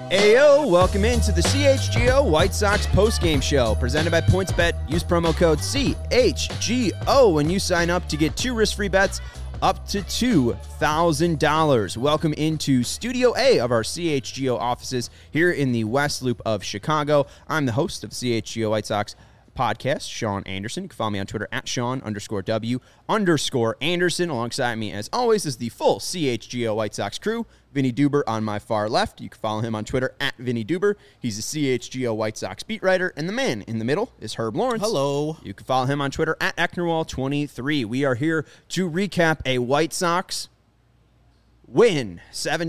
Ayo, welcome into the CHGO White Sox postgame show presented by PointsBet. Use promo code CHGO when you sign up to get 2 risk-free bets up to $2,000. Welcome into Studio A of our CHGO offices here in the West Loop of Chicago. I'm the host of CHGO White Sox podcast, Sean Anderson. You can follow me on Twitter at Sean_W_Anderson. Alongside me, as always, is the full CHGO White Sox crew. Vinny Duber on my far left. You can follow him on Twitter at Vinny Duber. He's a CHGO White Sox beat writer. And the man in the middle is Herb Lawrence. Hello. You can follow him on Twitter at Ecknerwall23. We are here to recap a White Sox win.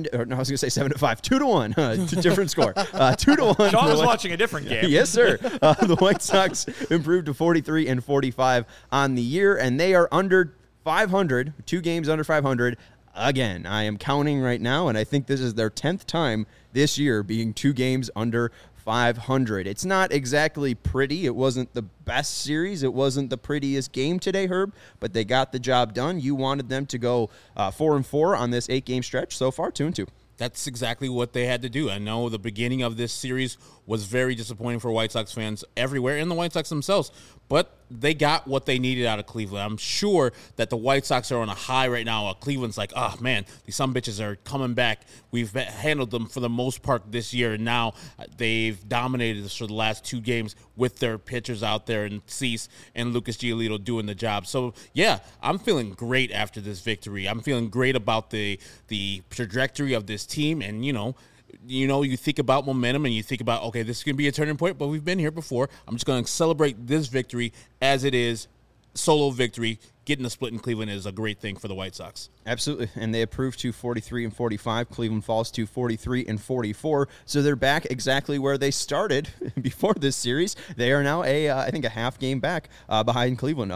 7-5. 2-1. Different score. 2-1. Sean was watching a different game. Yes, sir. The White Sox improved to 43-45 on the year, and they are under 500, 2 games under 500. Again, I am counting right now, and I think this is their 10th time this year being 2 games under 500. It's not exactly pretty. It wasn't the best series. It wasn't the prettiest game today, Herb, but they got the job done. You wanted them to go 4-4 on this 8-game stretch. So far, 2-2. That's exactly what they had to do. I know the beginning of this series was very disappointing for White Sox fans everywhere and the White Sox themselves, but they got what they needed out of Cleveland. I'm sure that the White Sox are on a high right now. Cleveland's like, oh, man, these sumbitches are coming back. We've handled them for the most part this year, and now they've dominated us for the last 2 games with their pitchers out there and Cease and Lucas Giolito doing the job. So, yeah, I'm feeling great after this victory. I'm feeling great about the trajectory of this team, and, you think about momentum and you think about, okay, this is going to be a turning point, but we've been here before. I'm just going to celebrate this victory as it is, solo victory. Getting the split in Cleveland is a great thing for the White Sox. Absolutely, and they improved to 43-45. Cleveland falls to 43-44, so they're back exactly where they started before this series. They are now I think a half game back behind Cleveland.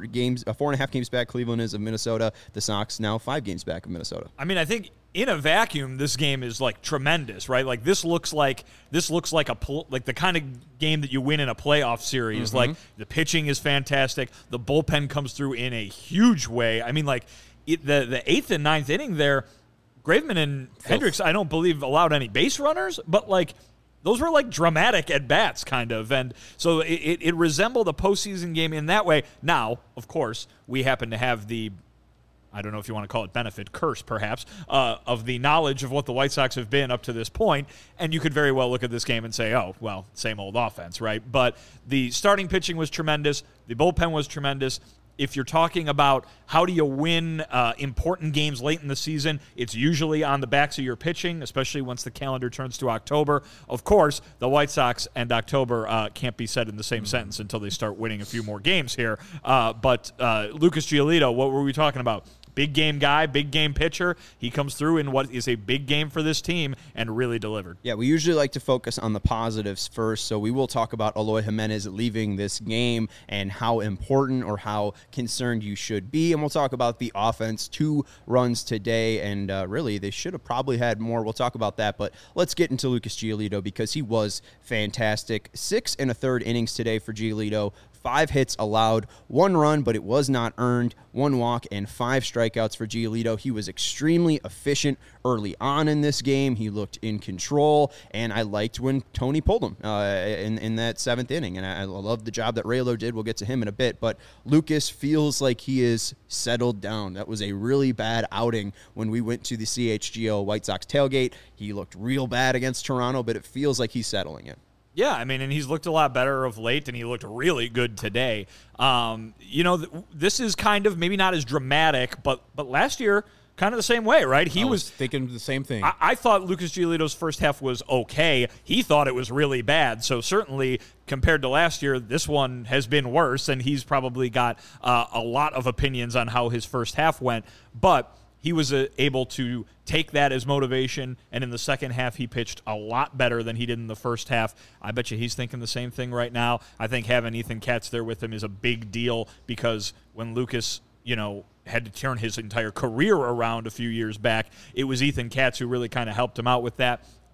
4.5 games back. Cleveland is of Minnesota. The Sox now 5 games back of Minnesota. I mean, I think in a vacuum, this game is like tremendous, right? Like this looks like the kind of game that you win in a playoff series. Mm-hmm. Like the pitching is fantastic. The bullpen comes through in a huge way. I mean, like the 8th and 9th inning there, Graveman and Hendricks, I don't believe allowed any base runners, but like those were like dramatic at bats, kind of, and so it resembled a postseason game in that way. Now, of course, we happen to have the, I don't know if you want to call it benefit, curse perhaps, of the knowledge of what the White Sox have been up to this point, and you could very well look at this game and say, oh, well, same old offense, right? But the starting pitching was tremendous. The bullpen was tremendous. If you're talking about how do you win important games late in the season, it's usually on the backs of your pitching, especially once the calendar turns to October. Of course, the White Sox and October can't be said in the same sentence until they start winning a few more games here. But Lucas Giolito, what were we talking about? Big game guy, big game pitcher. He comes through in what is a big game for this team and really delivered. Yeah, we usually like to focus on the positives first, so we will talk about Eloy Jimenez leaving this game and how important or how concerned you should be, and we'll talk about the offense. 2 runs today, and really, they should have probably had more. We'll talk about that, but let's get into Lucas Giolito because he was fantastic. 6 1/3 innings today for Giolito. 5 hits allowed, 1 run, but it was not earned, 1 walk, and 5 strikeouts for Giolito. He was extremely efficient early on in this game. He looked in control, and I liked when Tony pulled him in that 7th inning, and I love the job that Raylo did. We'll get to him in a bit, but Lucas feels like he is settled down. That was a really bad outing when we went to the CHGO White Sox tailgate. He looked real bad against Toronto, but it feels like he's settling in. Yeah, I mean, and he's looked a lot better of late, and he looked really good today. This is kind of maybe not as dramatic, but last year, kind of the same way, right? I was thinking the same thing. I thought Lucas Giolito's first half was okay. He thought it was really bad. So certainly, compared to last year, this one has been worse, and he's probably got a lot of opinions on how his first half went. But he was able to take that as motivation, and in the second half, he pitched a lot better than he did in the first half. I bet you he's thinking the same thing right now. I think having Ethan Katz there with him is a big deal because when Lucas, had to turn his entire career around a few years back, it was Ethan Katz who really kind of helped him out with that.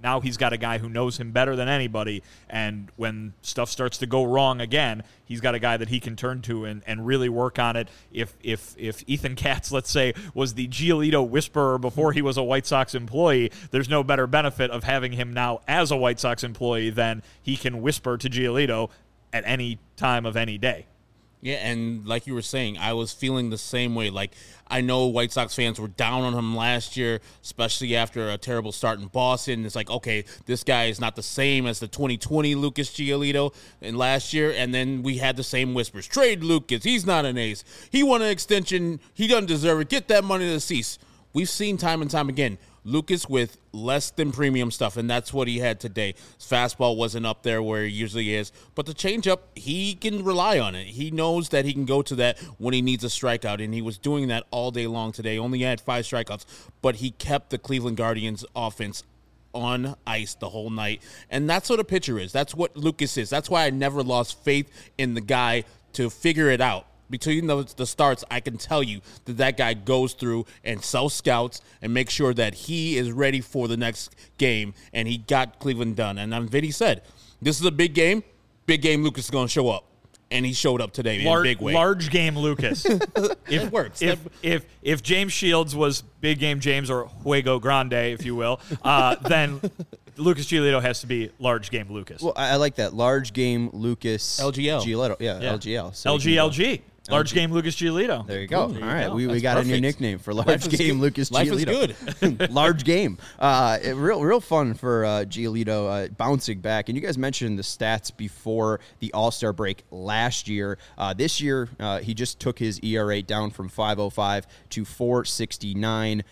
Now he's got a guy who knows him better than anybody, and when stuff starts to go wrong again, he's got a guy that he can turn to and really work on it. If Ethan Katz, let's say, was the Giolito whisperer before he was a White Sox employee, there's no better benefit of having him now as a White Sox employee than he can whisper to Giolito at any time of any day. Yeah, and like you were saying, I was feeling the same way. Like, I know White Sox fans were down on him last year, especially after a terrible start in Boston. It's like, okay, this guy is not the same as the 2020 Lucas Giolito in last year. And then we had the same whispers. Trade Lucas. He's not an ace. He won an extension. He doesn't deserve it. Get that money to cease. We've seen time and time again Lucas with less than premium stuff, and that's what he had today. His fastball wasn't up there where he usually is, but the changeup, he can rely on it. He knows that he can go to that when he needs a strikeout, and he was doing that all day long today. Only had 5 strikeouts, but he kept the Cleveland Guardians offense on ice the whole night, and that's what a pitcher is. That's what Lucas is. That's why I never lost faith in the guy to figure it out. Between the starts, I can tell you that guy goes through and sells scouts and makes sure that he is ready for the next game, and he got Cleveland done. And Vinny said, this is a big game. Big game Lucas is going to show up. And he showed up today in a big way. Large game Lucas. It works. If James Shields was big game James, or Juego Grande, if you will, then Lucas Giolito has to be large game Lucas. Well, I like that. Large game Lucas. LGL. Giolito. Yeah. LGL. So LGLG. Large game Lucas Giolito. There you go. All right, go. we got perfect. a new nickname for large game Lucas Giolito. Life is good. Large game. Real fun for Giolito bouncing back. And you guys mentioned the stats before the All-Star break last year. This year, he just took his ERA down from 5.05 to 4.69.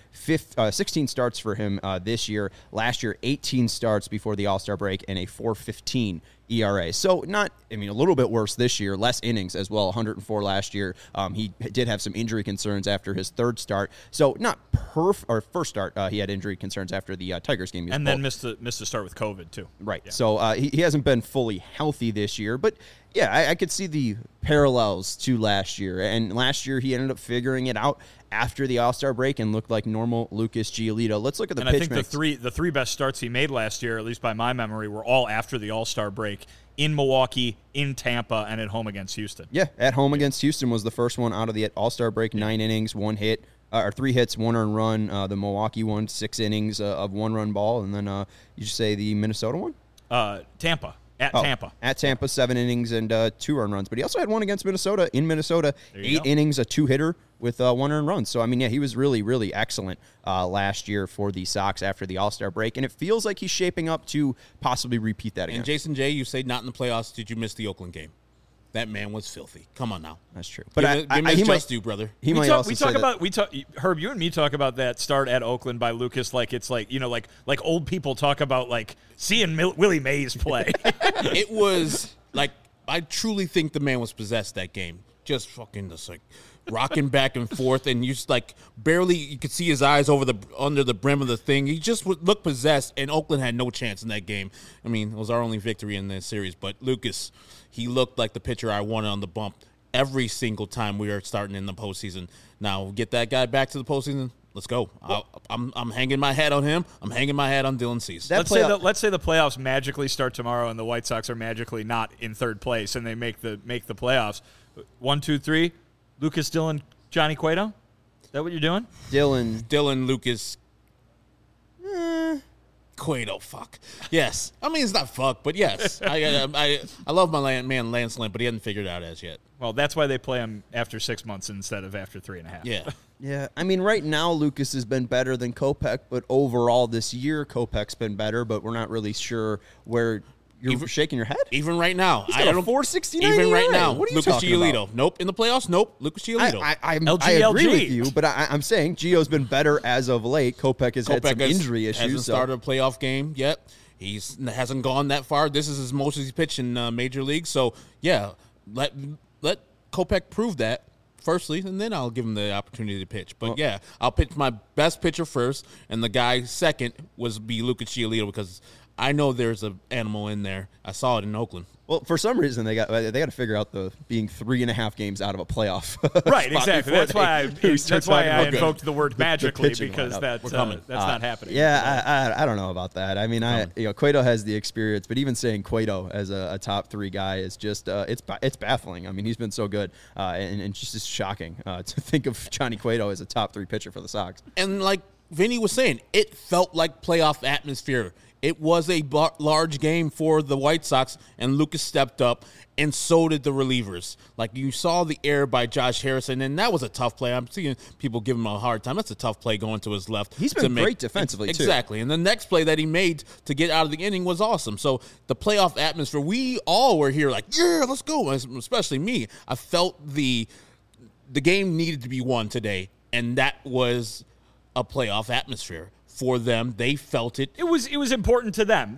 16 starts for him this year. Last year, 18 starts before the All-Star break and a 4.15 ERA. So a little bit worse this year, less innings as well, 104 last year. He did have some injury concerns after his third start. So not first start, he had injury concerns after the Tigers game. And then missed the start with COVID too. Right. Yeah. So he hasn't been fully healthy this year, but yeah, I could see the parallels to last year. And last year he ended up figuring it out after the All-Star break and looked like normal Lucas Giolito. Let's look at the pitch mix. I think the three best starts he made last year, at least by my memory, were all after the All-Star break in Milwaukee, in Tampa, and at home against Houston. Yeah, at home against Houston was the first one out of the All-Star break, 9 innings, 1 hit, or 3 hits, 1 earned run. The Milwaukee one, 6 innings of 1-run ball. And then you just say the Minnesota one? Tampa. Tampa. At Tampa, 7 innings and 2 earned runs. But he also had one against Minnesota in Minnesota, 8 innings, a 2-hitter with 1 earned run. So, he was really, really excellent last year for the Sox after the All-Star break. And it feels like he's shaping up to possibly repeat that again. And Jason J., you say not in the playoffs. Did you miss the Oakland game? That man was filthy. Come on now. That's true. But give me his just due, brother. Herb, you and me talk about that start at Oakland by Lucas like it's like old people talk about like seeing Willie Mays play. It was like, I truly think the man was possessed that game. Just fucking just like rocking back and forth, and you just like barely you could see his eyes under the brim of the thing. He just looked possessed, and Oakland had no chance in that game. It was our only victory in this series, but Lucas, he looked like the pitcher I wanted on the bump every single time we are starting in the postseason. Now, get that guy back to the postseason. Let's go. I'm hanging my hat on him. I'm hanging my hat on Dylan Cease. Let's say the playoffs magically start tomorrow, and the White Sox are magically not in third place, and they make the playoffs. 1, 2, 3. Lucas, Dylan, Johnny Cueto. Is that what you're doing? Dylan, Lucas. Cueto, fuck. Yes. It's not fuck, but yes. I love my man Lance Lynn, but he hasn't figured it out as yet. Well, that's why they play him after 6 months instead of after 3.5. Yeah. Yeah. Right now, Lucas has been better than Kopech, but overall this year, Kopech's been better, but we're not really sure where you're shaking your head. Even right now. He's got a 4.69 Even ERA. right now. What are you Lucas talking Giolito. about? Nope. In the playoffs? Nope. Lucas Giolito. I LGLG. agree with you, but I'm saying Gio's been better as of late. Kopech has had some injury issues. Hasn't started a playoff game yet. He hasn't gone that far. This is as most he's pitched in Major League. So, yeah, let Kopech prove that firstly, and then I'll give him the opportunity to pitch. But, yeah, I'll pitch my best pitcher first, and the guy second be Lucas Giolito because I know there's an animal in there. I saw it in Oakland. Well, for some reason they got to figure out the being 3.5 games out of a playoff. Right, exactly. That's why I invoked the word the magically pitching because lineup. that's not happening. Yeah, I don't know about that. I mean, Cueto has the experience, but even saying Cueto as a top 3 guy is just it's baffling. I mean, he's been so good, and just shocking to think of Johnny Cueto as a top 3 pitcher for the Sox. And like Vinny was saying, it felt like playoff atmosphere. It was a large game for the White Sox, and Lucas stepped up, and so did the relievers. Like, you saw the error by Josh Harrison, and that was a tough play. I'm seeing people give him a hard time. That's a tough play going to his left. He's been great defensively, too. Exactly. And the next play that he made to get out of the inning was awesome. So the playoff atmosphere, we all were here like, yeah, let's go, especially me. I felt the game needed to be won today, and that was a playoff atmosphere. For them, they felt it. It was important to them.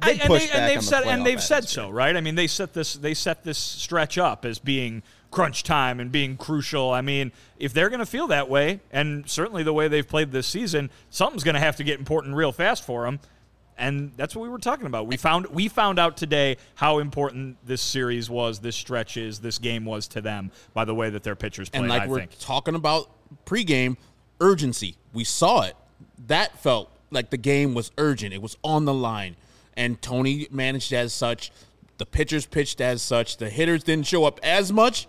They've said so, right? I mean, they set this stretch up as being crunch time and being crucial. I mean, if they're going to feel that way, and certainly the way they've played this season, something's going to have to get important real fast for them. And that's what we were talking about. We found out today how important this series was, this stretch is, this game was to them by the way that their pitchers played. And like we're talking about pregame urgency, we saw it. That felt like the game was urgent. It was on the line. And Tony managed as such. The pitchers pitched as such. The hitters didn't show up as much,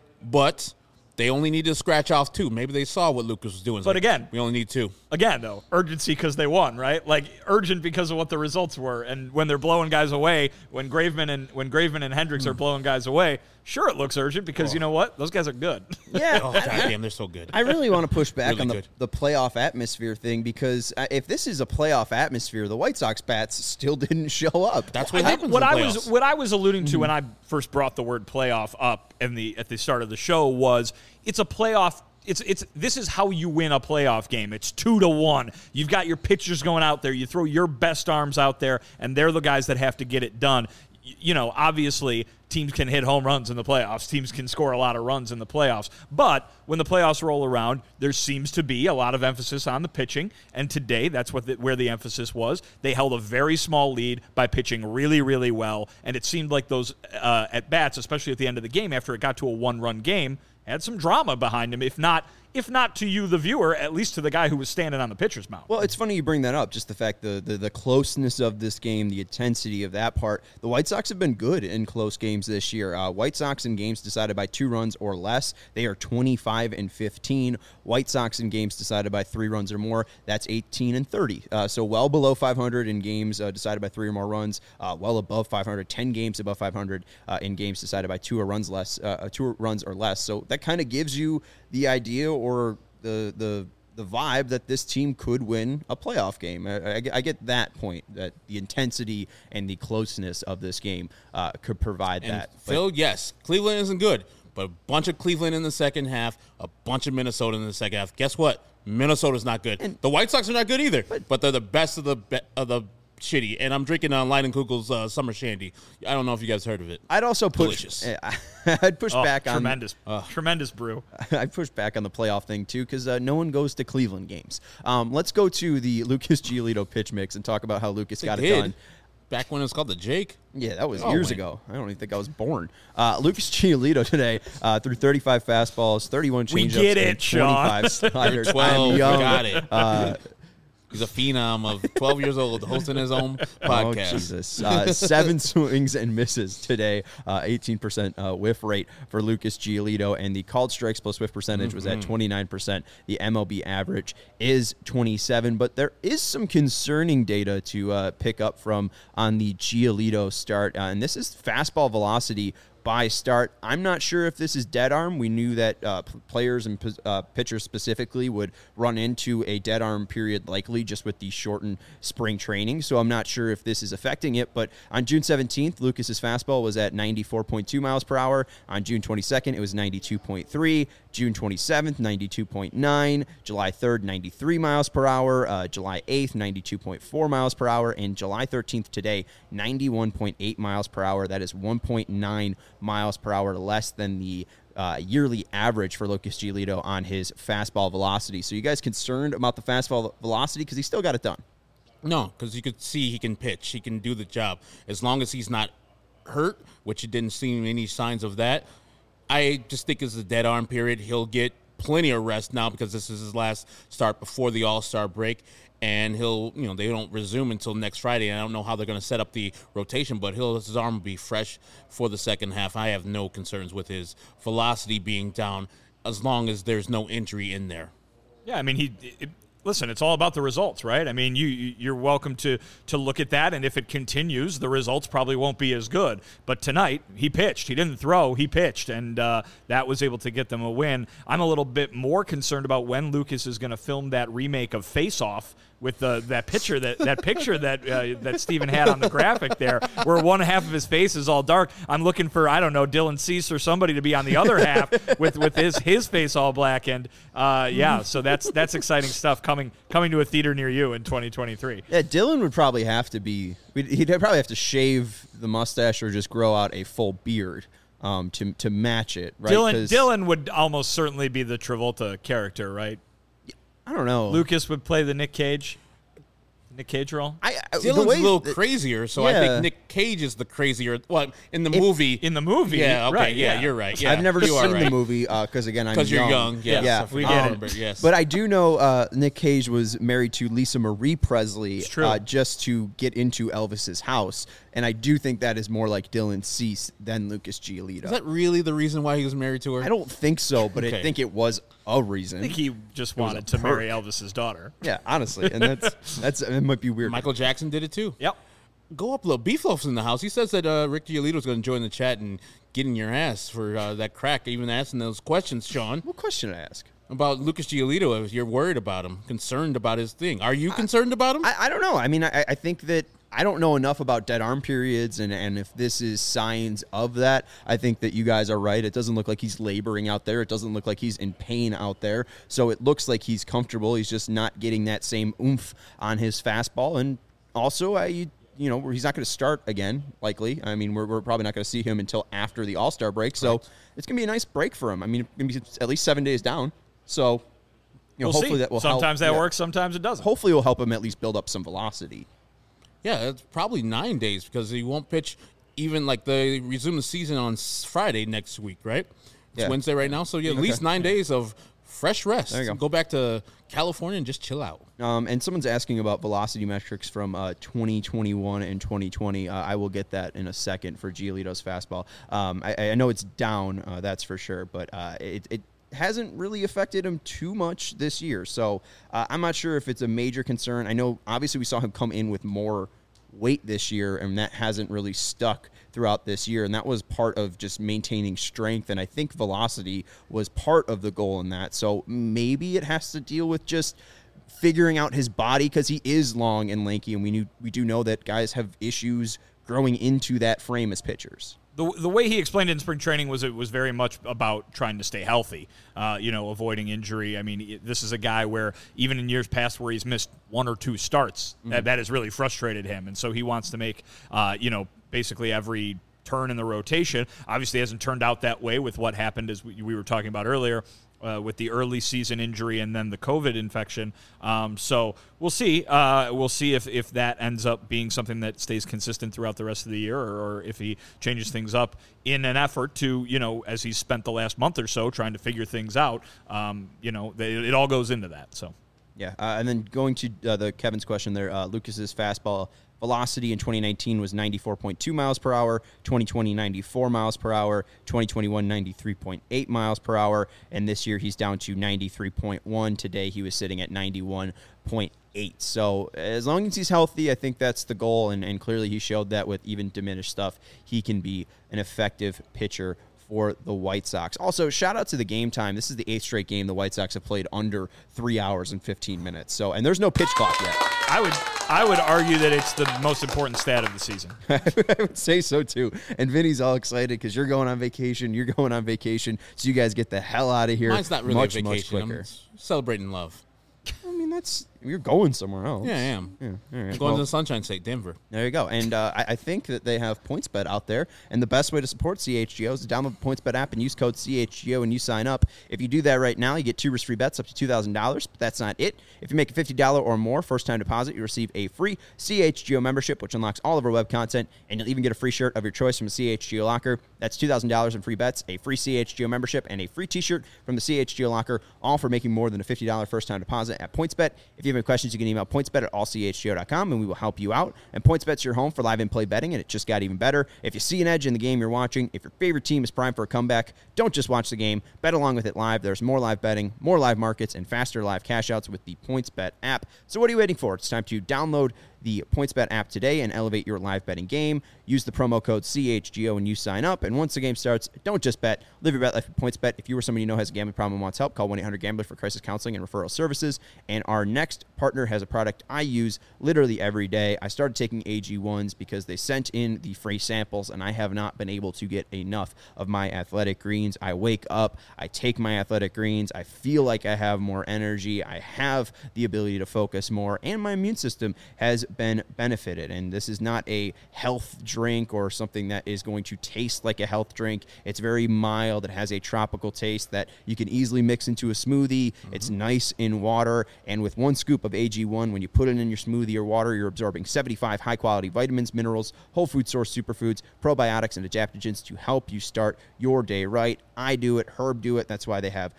but they only needed to scratch off 2. Maybe they saw what Lucas was doing. But again, we only need 2. Again, though, urgency because they won, right? Like, urgent because of what the results were. And when they're blowing guys away, when Graveman and Hendricks are blowing guys away, sure, it looks urgent because you know what? Those guys are good. Yeah. Oh, goddamn, they're so good. I really want to push back really on the playoff atmosphere thing because if this is a playoff atmosphere, the White Sox bats still didn't show up. That's what happens. What I was alluding to when I first brought the word playoff up at the start of the show was it's a playoff. This is how you win a playoff game. It's 2-1. You've got your pitchers going out there. You throw your best arms out there, and they're the guys that have to get it done. You know, obviously, teams can hit home runs in the playoffs. Teams can score a lot of runs in the playoffs. But when the playoffs roll around, there seems to be a lot of emphasis on the pitching. And today, that's where the emphasis was. They held a very small lead by pitching really, really well. And it seemed like those at-bats, especially at the end of the game, after it got to a 1-run game, had some drama behind him, if not to you, the viewer, at least to the guy who was standing on the pitcher's mound. Well, it's funny you bring that up, just the fact the closeness of this game, the intensity of that part. The White Sox have been good in close games this year. White Sox in games decided by 2 runs or less, they are 25-15. White Sox in games decided by 3 runs or more, that's 18-30. So well below 500 in games decided by 3 or more runs, well above 500, 10 games above 500 in games decided by 2 runs or less. So that kind of gives you the idea or the vibe that this team could win a playoff game. I get that point, that the intensity and the closeness of this game could provide and that. Phil, yes, Cleveland isn't good, but a bunch of Cleveland in the second half, a bunch of Minnesota in the second half. Guess what? Minnesota's not good. And the White Sox are not good either, but they're the best of the shitty. And I'm drinking Leidenkugel's Summer Shandy. I don't know if you guys heard of it. I'd also push. I'd push back on tremendous brew. I'd push back on the playoff thing too because no one goes to Cleveland games. Let's go to the Lucas Giolito pitch mix and talk about how Lucas got it done. Back when it was called the Jake. Yeah, that was years ago. I don't even think I was born. Lucas Giolito today threw 35 fastballs, 31 changeups, we get it, 25 sliders. 12, got it. He's a phenom of 12 years old hosting his own podcast. Oh, Jesus. 7 swings and misses today, 18% whiff rate for Lucas Giolito, and the called strikes plus whiff percentage was at 29%. The MLB average is 27, but there is some concerning data to pick up from on the Giolito start, and this is fastball velocity by start. I'm not sure if this is dead arm. We knew that players and pitchers specifically would run into a dead arm period likely just with the shortened spring training, so I'm not sure if this is affecting it, but on June 17th, Lucas's fastball was at 94.2 miles per hour. On June 22nd, it was 92.3. June 27th, 92.9. July 3rd, 93 miles per hour. July 8th, 92.4 miles per hour. And July 13th today, 91.8 miles per hour. That is 1.9 miles per hour less than the yearly average for Lucas Giolito on his fastball velocity. So you guys concerned about the fastball velocity? Because he still got it done. No, because you could see he can pitch. He can do the job. As long as he's not hurt, which it didn't seem any signs of that, I just think it's a dead arm period. He'll get plenty of rest now because this is his last start before the All-Star break. And they don't resume until next Friday. And I don't know how they're going to set up the rotation, but his arm will be fresh for the second half. I have no concerns with his velocity being down as long as there's no injury in there. Yeah, I mean, listen, it's all about the results, right? I mean, you're welcome to look at that, and if it continues, the results probably won't be as good. But tonight, he pitched. He didn't throw. He pitched, and that was able to get them a win. I'm a little bit more concerned about when Lucas is going to film that remake of Face Off with that picture that Steven had on the graphic there, where one half of his face is all dark. I'm looking for, I don't know, Dylan Cease or somebody to be on the other half with his face all black. And so that's exciting stuff coming to a theater near you in 2023. Yeah, Dylan would probably have to be. He'd probably have to shave the mustache or just grow out a full beard to match it. Right? Dylan would almost certainly be the Travolta character, right? I don't know. Lucas would play the Nick Cage role. Dylan's a little crazier, so I think Nick Cage is the crazier. Well, in the movie. In the movie. Yeah, okay, right, yeah, you're right. Yeah. I've never seen the movie because, again, I'm young. Because you're young, yes. Yeah, we get it. Yes. But I do know Nick Cage was married to Lisa Marie Presley just to get into Elvis's house. And I do think that is more like Dylan Cease than Lucas Giolito. Is that really the reason why he was married to her? I don't think so, but I think it was a reason. I think he just wanted to marry Elvis's daughter. Yeah, honestly. And that's it might be weird. Michael Jackson did it too. Yep. Go up, little Beef Loaf's in the house. He says that Rick Giolito is going to join the chat and get in your ass for that crack, even asking those questions, Sean. What question did I ask? About Lucas Giolito, if you're worried about him, concerned about his thing. Are you concerned about him? I don't know. I mean, I think that I don't know enough about dead arm periods, and if this is signs of that, I think that you guys are right. It doesn't look like he's laboring out there. It doesn't look like he's in pain out there. So it looks like he's comfortable. He's just not getting that same oomph on his fastball. And also, he's not going to start again, likely. I mean, we're probably not going to see him until after the All-Star break. So It's going to be a nice break for him. I mean, it's going to be at least 7 days down. So, we'll hopefully see. that will help. Sometimes that works, sometimes it doesn't. Hopefully it will help him at least build up some velocity. Yeah, it's probably 9 days because he won't pitch even they resume the season on Friday next week, right? It's Wednesday right now. So, at least 9 days of fresh rest. There you go. Go back to California and just chill out. And someone's asking about velocity metrics from 2021 and 2020. I will get that in a second for Giolito's fastball. I know it's down, that's for sure, but it hasn't really affected him too much this year. So I'm not sure if it's a major concern. I know, obviously, we saw him come in with more weight this year, and that hasn't really stuck throughout this year, and that was part of just maintaining strength, and I think velocity was part of the goal in that. So maybe it has to deal with just figuring out his body, because he is long and lanky, and we do know that guys have issues growing into that frame as pitchers. The way he explained it in spring training was it was very much about trying to stay healthy, avoiding injury. I mean, this is a guy where even in years past where he's missed 1 or 2 starts, that has really frustrated him. And so he wants to make, basically every turn in the rotation. Obviously it hasn't turned out that way with what happened, as we were talking about earlier, with the early season injury and then the COVID infection. So we'll see. We'll see if that ends up being something that stays consistent throughout the rest of the year, or if he changes things up in an effort to, as he's spent the last month or so trying to figure things out. It all goes into that. So. Yeah, and then going to the Kevin's question there, Lucas's fastball velocity in 2019 was 94.2 miles per hour, 2020 94 miles per hour, 2021 93.8 miles per hour, and this year he's down to 93.1. Today he was sitting at 91.8. So as long as he's healthy, I think that's the goal, and clearly he showed that with even diminished stuff. He can be an effective pitcher for the White Sox. Also, shout out to the game time. This is the 8th straight game the White Sox have played under 3 hours and 15 minutes. So, and there's no pitch clock yet. I would argue that it's the most important stat of the season. I would say so too. And Vinny's all excited because you're going on vacation. You're going on vacation, so you guys get the hell out of here. Mine's not really much, a vacation. Much quicker. I'm celebrating love. I mean, that's You're going somewhere else. Yeah, I am. Yeah, all right. I'm going to the Sunshine State, Denver. There you go. And I think that they have PointsBet out there. And the best way to support CHGO is to download the PointsBet app and use code CHGO when you sign up. If you do that right now, you get 2 risk-free bets up to $2,000. But that's not it. If you make a $50 or more first-time deposit, you receive a free CHGO membership, which unlocks all of our web content. And you'll even get a free shirt of your choice from a CHGO locker. That's $2,000 in free bets, a free CHGO membership, and a free t-shirt from the CHGO locker, all for making more than a $50 first-time deposit at PointsBet. If you have any questions, you can email pointsbet@allchgo.com, and we will help you out. And PointsBet's your home for live in-play betting, and it just got even better. If you see an edge in the game you're watching, if your favorite team is primed for a comeback, don't just watch the game. Bet along with it live. There's more live betting, more live markets, and faster live cash-outs with the PointsBet app. So what are you waiting for? It's time to download the PointsBet app today and elevate your live betting game. Use the promo code CHGO when you sign up. And once the game starts, don't just bet. Live your bet life with PointsBet. If you or somebody you know has a gambling problem and wants help, call 1-800-GAMBLER for crisis counseling and referral services. And our next partner has a product I use literally every day. I started taking AG1s because they sent in the free samples, and I have not been able to get enough of my Athletic Greens. I wake up, I take my Athletic Greens, I feel like I have more energy, I have the ability to focus more, and my immune system has been benefited. And this is not a health drink or something that is going to taste like a health drink. It's very mild. It has a tropical taste that you can easily mix into a smoothie. It's nice in water. And with 1 scoop of AG1, when you put it in your smoothie or water, you're absorbing 75 high-quality vitamins, minerals, whole food source superfoods, probiotics, and adaptogens to help you start your day right. I do it. Herb do it. That's why they have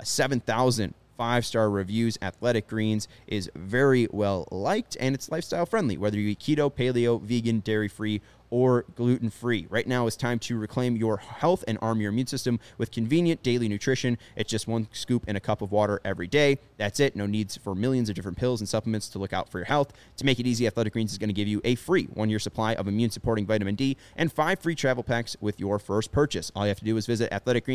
7,000 5-star reviews. Athletic Greens is very well liked, and it's lifestyle friendly, whether you eat keto, paleo, vegan, dairy-free, or gluten-free. Right now it's time to reclaim your health and arm your immune system with convenient daily nutrition. It's just 1 scoop in a cup of water every day. That's it. No needs for millions of different pills and supplements to look out for your health. To make it easy, Athletic Greens is going to give you a free 1-year supply of immune-supporting vitamin D and 5 free travel packs with your first purchase. All you have to do is visit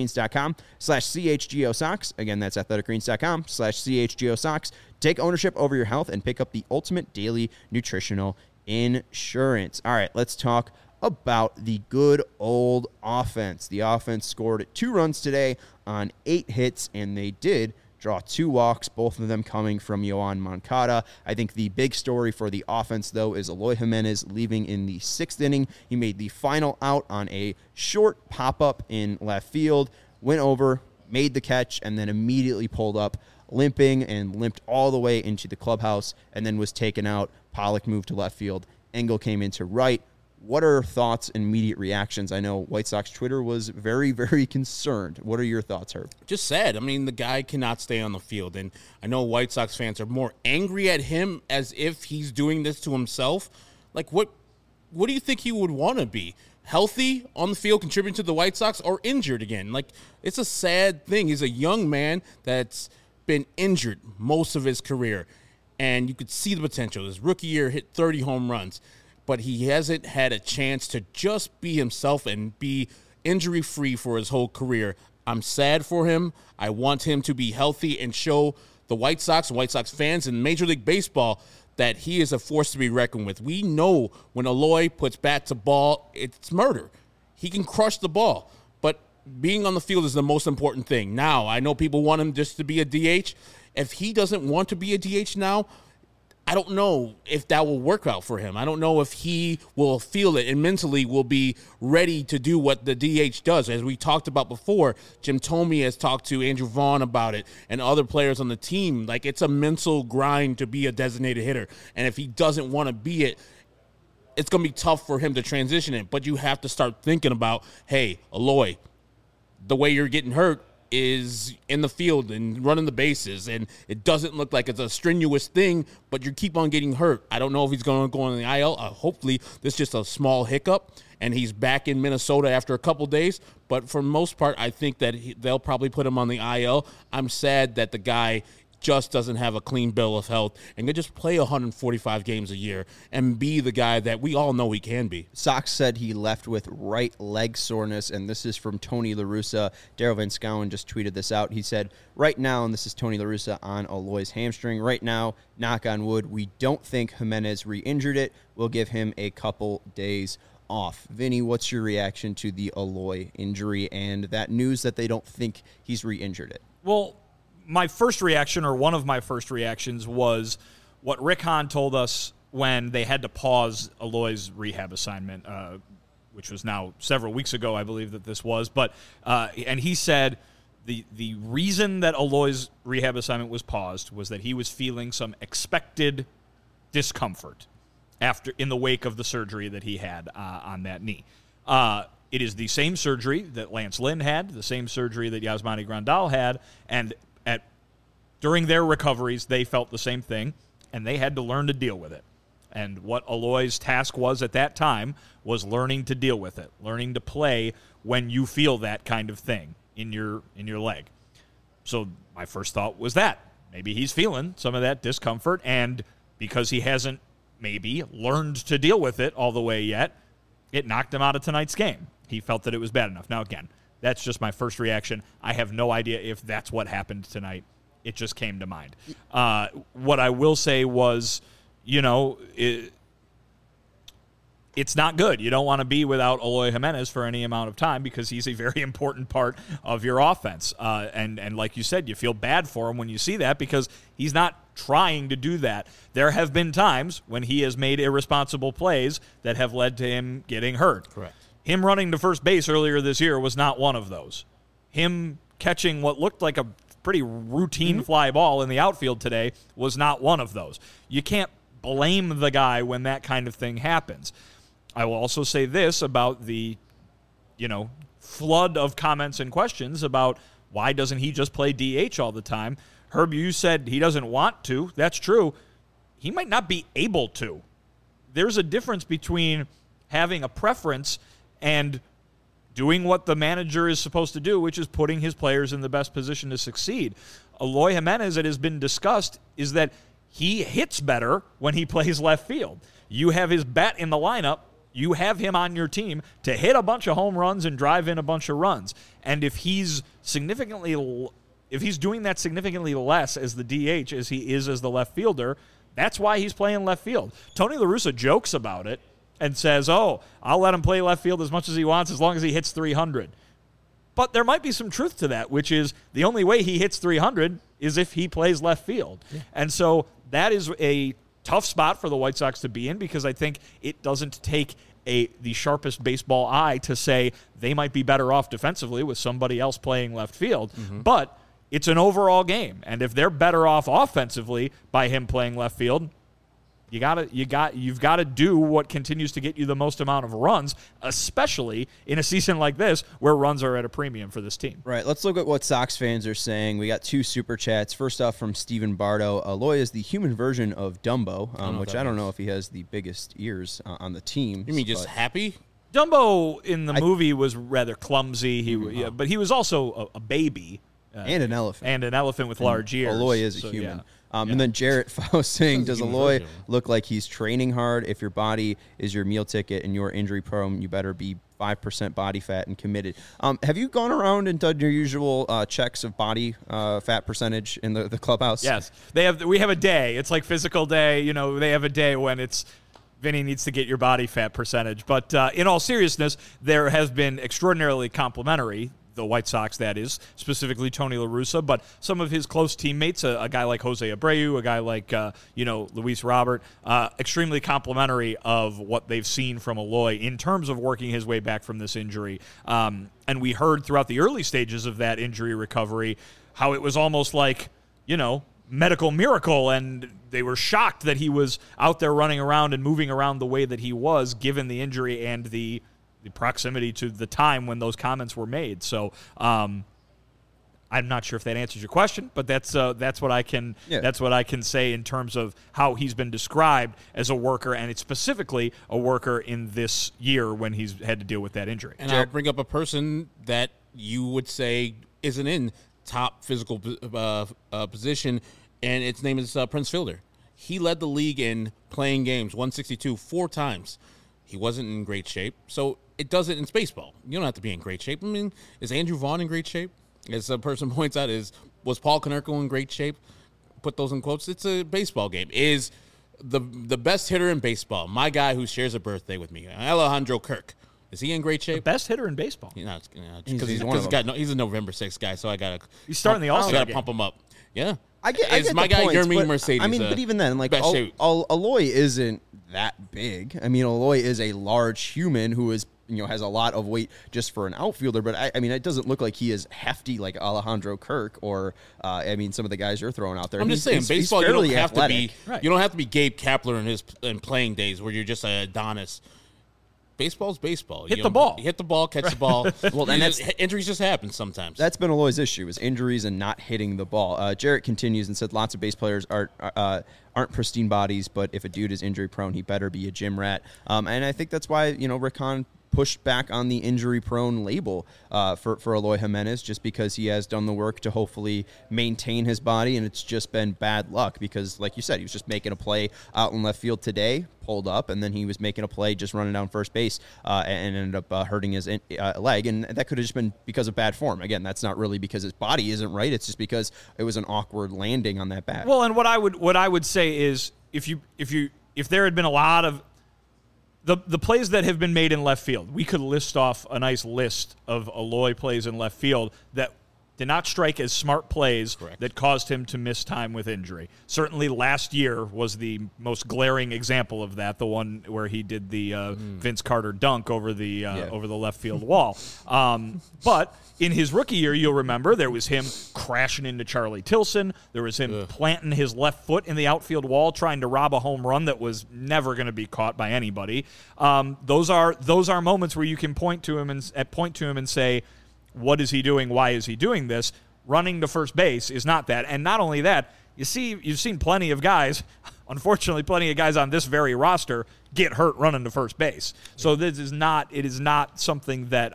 athleticgreens.com/CHGO socks. Again, that's athleticgreens.com/CHGO socks. Take ownership over your health and pick up the ultimate daily nutritional insurance. All right, let's talk about the good old offense. The offense scored 2 runs today on 8 hits, and they did draw 2 walks, both of them coming from Yoan Moncada. I think the big story for the offense, though, is Eloy Jimenez leaving in the 6th inning. He made the final out on a short pop-up in left field, went over, made the catch, and then immediately pulled up limping and limped all the way into the clubhouse and then was taken out. Pollock moved to left field. Engel came into right. What are thoughts and immediate reactions? I know White Sox Twitter was very, very concerned. What are your thoughts, Herb? Just sad. I mean, the guy cannot stay on the field. And I know White Sox fans are more angry at him as if he's doing this to himself. Like, what do you think he would want to be? Healthy on the field, contributing to the White Sox, or injured again? Like, it's a sad thing. He's a young man that's been injured most of his career, and you could see the potential. His rookie year hit 30 home runs, but he hasn't had a chance to just be himself and be injury-free for his whole career. I'm sad for him. I want him to be healthy and show the White Sox and White Sox fans in Major League Baseball that he is a force to be reckoned with. We know when Eloy puts bat to ball, it's murder. He can crush the ball, but being on the field is the most important thing. Now, I know people want him just to be a DH. If he doesn't want to be a DH now, I don't know if that will work out for him. I don't know if he will feel it and mentally will be ready to do what the DH does. As we talked about before, Jim Thome has talked to Andrew Vaughn about it and other players on the team. Like, it's a mental grind to be a designated hitter. And if he doesn't want to be it, it's going to be tough for him to transition it. But you have to start thinking about, hey, Eloy, the way you're getting hurt is in the field and running the bases, and it doesn't look like it's a strenuous thing, but you keep on getting hurt. I don't know if he's going to go on the IL. Hopefully this is just a small hiccup and he's back in Minnesota after a couple days, but for the most part, I think that they'll probably put him on the IL. I'm sad that the guy just doesn't have a clean bill of health and can just play 145 games a year and be the guy that we all know he can be. Sox said he left with right leg soreness, and this is from Tony La Russa. Daryl Van Schouwen just tweeted this out. He said, right now, and this is Tony La Russa on Eloy's hamstring, right now, knock on wood, we don't think Jimenez re-injured it. We'll give him a couple days off. Vinny, what's your reaction to the Eloy injury and that news that they don't think he's re-injured it? Well, my first reaction, or one of my first reactions, was what Rick Hahn told us when they had to pause Eloy's rehab assignment, which was now several weeks ago, I believe that this was. But and he said the reason that Eloy's rehab assignment was paused was that he was feeling some expected discomfort in the wake of the surgery that he had on that knee. It is the same surgery that Lance Lynn had, the same surgery that Yasmani Grandal had, and during their recoveries, they felt the same thing, and they had to learn to deal with it. And what Eloy's task was at that time was learning to deal with it, learning to play when you feel that kind of thing in your leg. So my first thought was that maybe he's feeling some of that discomfort, and because he hasn't maybe learned to deal with it all the way yet, it knocked him out of tonight's game. He felt that it was bad enough. Now, again, that's just my first reaction. I have no idea if that's what happened tonight. It just came to mind. What I will say was, it's not good. You don't want to be without Eloy Jimenez for any amount of time because he's a very important part of your offense. And like you said, you feel bad for him when you see that because he's not trying to do that. There have been times when he has made irresponsible plays that have led to him getting hurt. Correct. Him running to first base earlier this year was not one of those. Him catching what looked like a pretty routine fly ball in the outfield today was not one of those. You can't blame the guy when that kind of thing happens. I will also say this about the, flood of comments and questions about why doesn't he just play DH all the time. Herb, you said he doesn't want to. That's true. He might not be able to. There's a difference between having a preference and doing what the manager is supposed to do, which is putting his players in the best position to succeed. Eloy Jimenez, it has been discussed, is that he hits better when he plays left field. You have his bat in the lineup. You have him on your team to hit a bunch of home runs and drive in a bunch of runs. And if he's doing that significantly less as the DH as he is as the left fielder, that's why he's playing left field. Tony La Russa jokes about it and says, I'll let him play left field as much as he wants as long as he hits 300. But there might be some truth to that, which is the only way he hits 300 is if he plays left field. Yeah. And so that is a tough spot for the White Sox to be in because I think it doesn't take the sharpest baseball eye to say they might be better off defensively with somebody else playing left field. Mm-hmm. But it's an overall game, and if they're better off offensively by him playing left field, you've got to do what continues to get you the most amount of runs, especially in a season like this where runs are at a premium for this team. Right. Let's look at what Sox fans are saying. We got 2 super chats. First off, from Stephen Bardo. Eloy is the human version of Dumbo, which I don't know if he has the biggest ears on the team. You mean just happy? Dumbo in the movie was rather clumsy. But he was also a baby. And an elephant. And an elephant with large ears. Eloy is a human. Yeah. And then Jarrett Faust saying, does Eloy look like he's training hard? If your body is your meal ticket and you're injury prone, you better be 5% body fat and committed. Have you gone around and done your usual checks of body fat percentage in the clubhouse? Yes. We have a day. It's like physical day. They have a day when it's Vinny needs to get your body fat percentage. But in all seriousness, there has been extraordinarily complimentary, the White Sox, that is, specifically Tony La Russa, but some of his close teammates, a guy like Jose Abreu, a guy like, Luis Robert, extremely complimentary of what they've seen from Eloy in terms of working his way back from this injury. And we heard throughout the early stages of that injury recovery how it was almost like, medical miracle, and they were shocked that he was out there running around and moving around the way that he was, given the injury and the proximity to the time when those comments were made. So I'm not sure if that answers your question, but that's what I can say in terms of how he's been described as a worker, and it's specifically a worker in this year when he's had to deal with that injury. And I'll bring up a person that you would say isn't in top physical position, and its name is Prince Fielder. He led the league in playing games, 162, 4 times. He wasn't in great shape, so it doesn't. It's baseball. You don't have to be in great shape. I mean, is Andrew Vaughn in great shape? As a person points out, was Paul Konerko in great shape? Put those in quotes. It's a baseball game. Is the best hitter in baseball, my guy who shares a birthday with me, Alejandro Kirk, is he in great shape? The best hitter in baseball. Because he's a November 6th guy, so I gotta. He's starting the All-Star game. Pump him up. Yeah. I get It's the my guy, points, Yermin but, Mercedes. I mean, but even then, like, best shape. Aloy isn't that big. I mean, Aloy is a large human who is, has a lot of weight just for an outfielder. But I mean, it doesn't look like he is hefty like Alejandro Kirk or, some of the guys you're throwing out there. I'm just saying, baseball, you don't have athletic. to be, you don't have to be Gabe Kapler in playing days where you're just an Adonis. Baseball's baseball. Hit the ball. Hit the ball, catch the ball. Well, and injuries just happen sometimes. That's been Aloy's issue, is injuries and not hitting the ball. Jarrett continues and said lots of base players aren't pristine bodies, but if a dude is injury prone, he better be a gym rat. And I think that's why, Rick Hahn pushed back on the injury-prone label for Aloy Jimenez, just because he has done the work to hopefully maintain his body, and it's just been bad luck because, like you said, he was just making a play out in left field today, pulled up, and then he was making a play just running down first base and ended up hurting his leg, and that could have just been because of bad form. Again, that's not really because his body isn't right. It's just because it was an awkward landing on that bat. Well, and what I would say is if there had been a lot of the plays that have been made in left field, we could list off a nice list of Aloy plays in left field that did not strike as smart plays. Correct. That caused him to miss time with injury. Certainly last year was the most glaring example of that, the one where he did the Vince Carter dunk over the left field wall. But in his rookie year, you'll remember, there was him crashing into Charlie Tilson. There was him planting his left foot in the outfield wall, trying to rob a home run that was never going to be caught by anybody. Those are moments where you can point to him and say, what is he doing? Why is he doing this? Running to first base is not that. And not only that, you've seen plenty of guys, unfortunately, plenty of guys on this very roster get hurt running to first base. So it is not something that,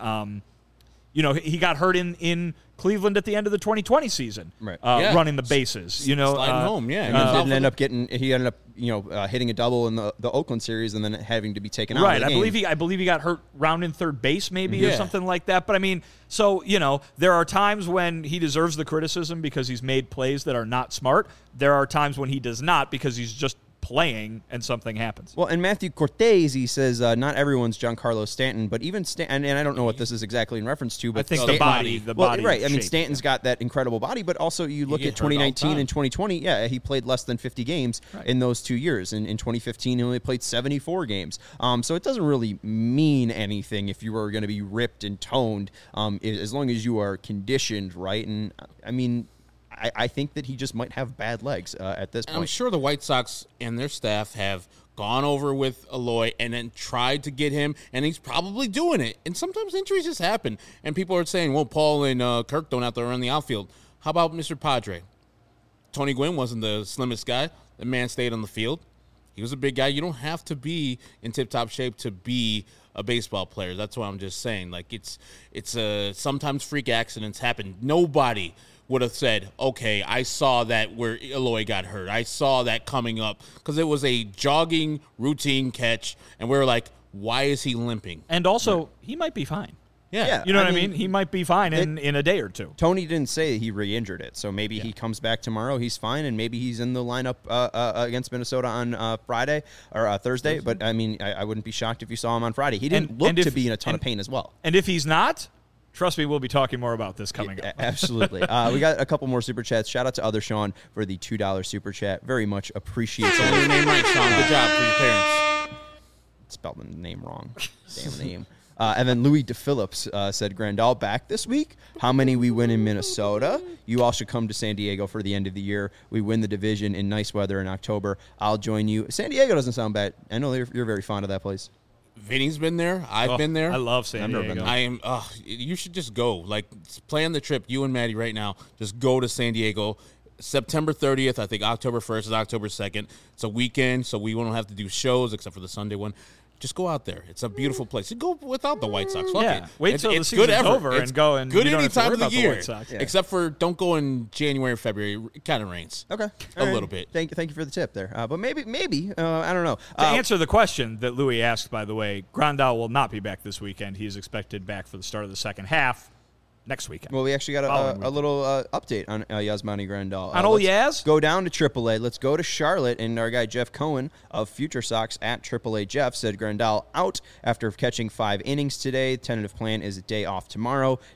he got hurt in Cleveland at the end of the 2020 season, right? Running the bases, sliding home, he ended up hitting a double in the Oakland series and then having to be taken out. Right, I believe he got hurt rounding third base maybe or something like that. But I mean, so there are times when he deserves the criticism because he's made plays that are not smart. There are times when he does not because he's just playing and something happens. Well, and Matthew Cortez, he says, not everyone's Giancarlo Stanton, but even Stanton, and I don't know what this is exactly in reference to, but I think Stanton, the body. Right. I mean, shape, Stanton's got that incredible body, but also you look at 2019 and 2020. Yeah, he played less than 50 games in those 2 years. And in 2015, he only played 74 games. So it doesn't really mean anything if you are going to be ripped and toned, as long as you are conditioned right. And I mean, I think that he just might have bad legs at this point. I'm sure the White Sox and their staff have gone over with Aloy and then tried to get him, and he's probably doing it. And sometimes injuries just happen, and people are saying, well, Paul and Kirk don't have to run the outfield. How about Mr. Padre? Tony Gwynn wasn't the slimmest guy. The man stayed on the field. He was a big guy. You don't have to be in tip-top shape to be a baseball player. That's what I'm just saying. Like, it's sometimes freak accidents happen. Nobody would have said, okay, I saw that where Aloy got hurt. I saw that coming up because it was a jogging routine catch, and we were like, why is he limping? And also, he might be fine. Yeah. You know what I mean? He might be fine in a day or two. Tony didn't say he re-injured it, so maybe he comes back tomorrow, he's fine, and maybe he's in the lineup against Minnesota on Friday or Thursday. But, I mean, I wouldn't be shocked if you saw him on Friday. He didn't look to be in a ton of pain as well. And if he's not, trust me, we'll be talking more about this coming up. Absolutely. We got a couple more super chats. Shout out to Other Sean for the $2 super chat. Very much appreciate it. Your name right, Sean. Good job for your parents. Spelled the name wrong. Damn name. And then Louis DePhillips said, Grandal back this week. How many we win in Minnesota? You all should come to San Diego for the end of the year. We win the division in nice weather in October. I'll join you. San Diego doesn't sound bad. I know you're very fond of that place. Vinny's been there. I've been there. I love San Diego. Never been there. I am. You should just go. Like, plan the trip. You and Maddie right now. Just go to San Diego. September 30th. I think October 1st is October 2nd. It's a weekend, so we won't have to do shows except for the Sunday one. Just go out there. It's a beautiful place. You go without the White Sox. Fuck it. Wait till the season's over and go, and good you don't any have to time worry of the about year. the White Sox. Yeah. Except for don't go in January or February. It kind of rains. Okay. A little bit. Thank you for the tip there. But maybe, I don't know. To answer the question that Louis asked, by the way, Grandal will not be back this weekend. He is expected back for the start of the second half next weekend. Well, we actually got a little update on Yasmani Grandal. On old Yaz? Go down to AAA. Let's go to Charlotte. And our guy Jeff Cohen of Future Sox at AAA Jeff said Grandal out after catching 5 innings today. Tentative plan is a day off tomorrow.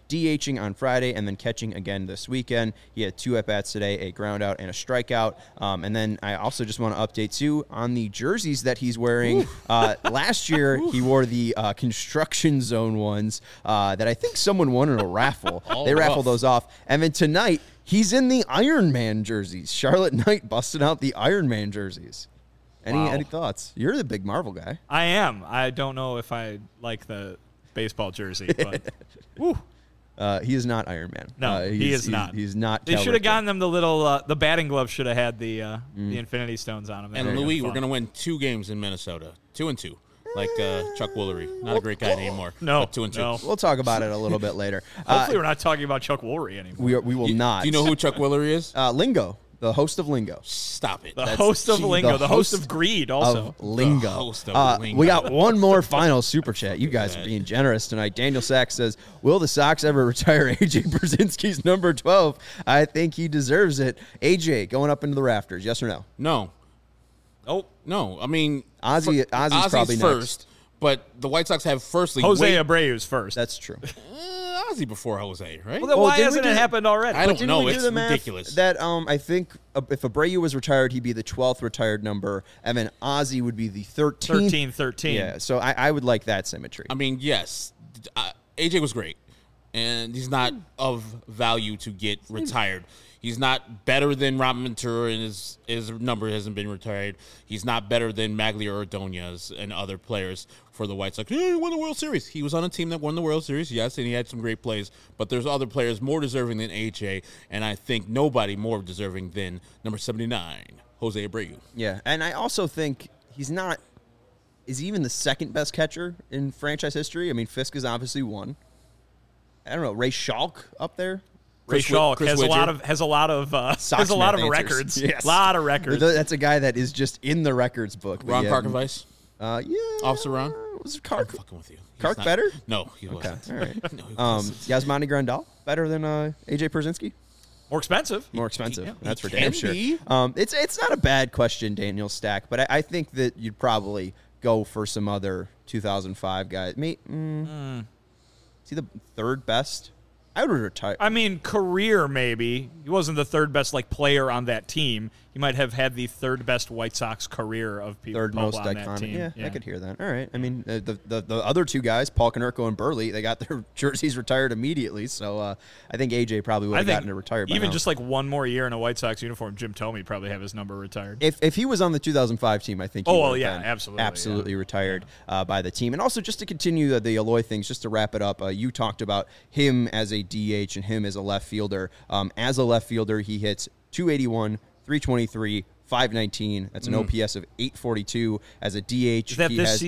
DHing on Friday and then catching again this weekend. He had 2 at-bats today, a ground out and a strikeout. And then I also just want to update, too, on the jerseys that he's wearing. Last year, he wore the construction zone ones that I think someone won in a raffle. They raffled those off. And then tonight, he's in the Iron Man jerseys. Charlotte Knight busted out the Iron Man jerseys. Any thoughts? You're the big Marvel guy. I am. I don't know if I like the baseball jersey, but woo. He is not Iron Man. No, he is not. He's not. They should have gotten them the little the batting glove should have had the Infinity Stones on them. And Louis, we're going to win 2 games in Minnesota, 2-2, like Chuck Woolery. Not a great guy anymore. No, but 2-2. No. We'll talk about it a little bit later. Hopefully, we're not talking about Chuck Woolery anymore. We will not. Do you know who Chuck Woolery is? Lingo. The host of Lingo. Stop it. The host of Lingo. The host of Greed also. Of Lingo. The host of Lingo. We got one more final super chat. You guys are being generous tonight. Daniel Sachs says, will the Sox ever retire A.J. Brzezinski's number 12? I think he deserves it. A.J. going up into the rafters, yes or no? No. Oh. No. I mean, Ozzy's probably first, next. But the White Sox have firstly. Jose Abreu's first. That's true. Ozzy before Jose, right? Well, then why hasn't it happened already? I don't know. We It's do the math ridiculous. That I think if Abreu was retired, he'd be the 12th retired number, and then Ozzy would be the 13th. 13. Yeah, so I would like that symmetry. I mean, yes, AJ was great, and he's not of value to get retired. He's not better than Robin Ventura, and his number hasn't been retired. He's not better than Maglia Ordonez and other players for the White Sox. He won the World Series. He was on a team that won the World Series, yes, and he had some great plays. But there's other players more deserving than AJ, and I think nobody more deserving than number 79, Jose Abreu. Yeah, and I also think he's not – is he even the second best catcher in franchise history? I mean, Fisk is obviously one. I don't know, Ray Schalk up there? Ray Schalk has a lot of records. Yes. A lot of records. That's a guy that is just in the records book. Ron Karkovice? Yeah. Officer Ron? Was Kark? I'm fucking with you. Kark better? No, he wasn't. All right. No, he wasn't. Yasmani Grandal better than AJ Pierzynski? More expensive. More expensive. Yeah, That's he for damn can sure. be. It's not a bad question, Daniel Stack, but I think that you'd probably go for some other 2005 guys. Is he the third best? I would retire. I mean, career maybe. He wasn't the third best player on that team. He might have had the third best White Sox career of people Third most on that iconic. team. Yeah, I could hear that. All right. I mean, the other two guys, Paul Konerko and Burley, they got their jerseys retired immediately. So I think AJ probably would have gotten it retired. Even by now. just one more year in a White Sox uniform, Jim Thome would probably have his number retired. If he was on the 2005 team, I think. He would have been absolutely retired by the team. And also, just to continue the Eloy things, just to wrap it up, you talked about him as a DH and him as a left fielder. As a left fielder, he hits 281, 323. 519. That's an OPS of 842 as a DH. Is that this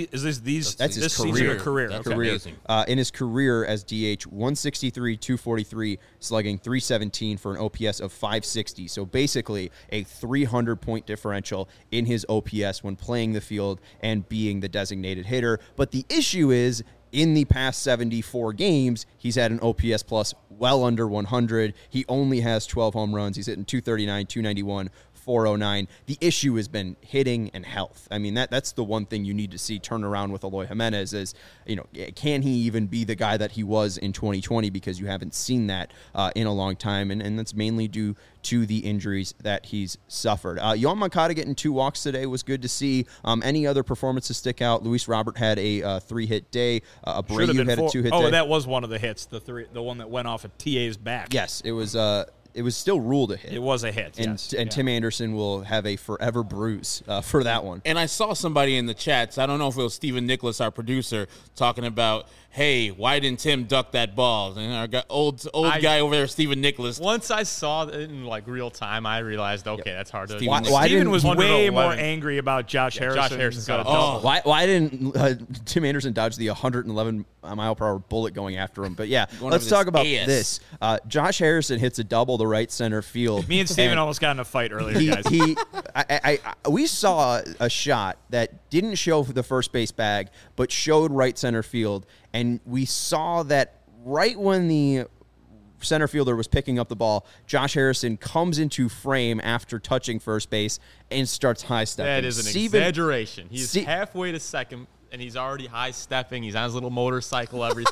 season or career? That's okay. amazing. In his career as DH, 163, 243, slugging 317 for an OPS of 560. So basically a 300-point differential in his OPS when playing the field and being the designated hitter. But the issue is, in the past 74 games, he's had an OPS plus well under 100. He only has 12 home runs. He's hitting 239, 291, 409. The issue has been hitting and health. I mean, that's the one thing you need to see turn around with Eloy Jimenez is, can he even be the guy that he was in 2020, because you haven't seen that in a long time, and that's mainly due to the injuries that he's suffered. Yoan Moncada getting 2 walks today was good to see. Any other performances stick out? Luis Robert had a 3-hit day. Abreu had a 2-hit day. Oh, that was one of the hits, the one that went off of TA's back. Yes, it was still ruled a hit. It was a hit, and Tim Anderson will have a forever bruise for that one. And I saw somebody in the chats, I don't know if it was Stephen Nicholas, our producer, talking about, hey, why didn't Tim duck that ball? And our old guy over there, Stephen Nicholas. Once I saw it in real time, I realized, okay, that's hard to do. Steven was way more angry about Josh Harrison. Josh Harrison's got a double. Why didn't Tim Anderson dodge the 111-mile-per-hour bullet going after him? But yeah, let's talk about this. Josh Harrison hits a double to right center field. Me and Steven almost got in a fight earlier, guys. We saw a shot that didn't show the first base bag, but showed right center field. And we saw that right when the center fielder was picking up the ball, Josh Harrison comes into frame after touching first base and starts high-stepping. That is an exaggeration. He's halfway to second, and he's already high-stepping. He's on his little motorcycle, everything.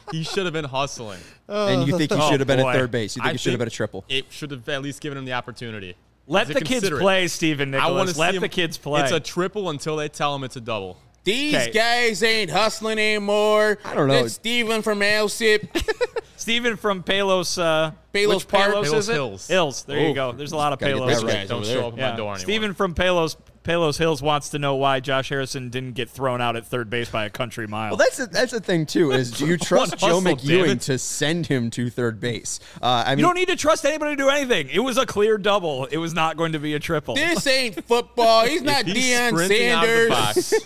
He should have been hustling. And you think he Oh, should have been boy. at third base? You think I he should have been think a triple? It should have at least given him the opportunity. Let He's the kids considerate. play, Stephen I want Nicholas. to Let see the him. kids play. It's a triple until they tell him it's a double. These Okay. guys ain't hustling anymore. I don't know. That's Steven from Alsip. Stephen from Palos. Palos which Park? Palos Palos is it? Hills. Hills. There Oh. you go. There's a lot of Gotta get Palos. that Rich right. guys Don't over show there. up at Yeah. my door anymore. Stephen from Palos Hills wants to know why Josh Harrison didn't get thrown out at third base by a country mile. Well, that's the thing too. Is do you trust Joe hustle, damn McEwing it. to send him to third base? I mean, you don't need to trust anybody to do anything. It was a clear double. It was not going to be a triple. This ain't football. He's not He's Deion sprinting out of the Sanders.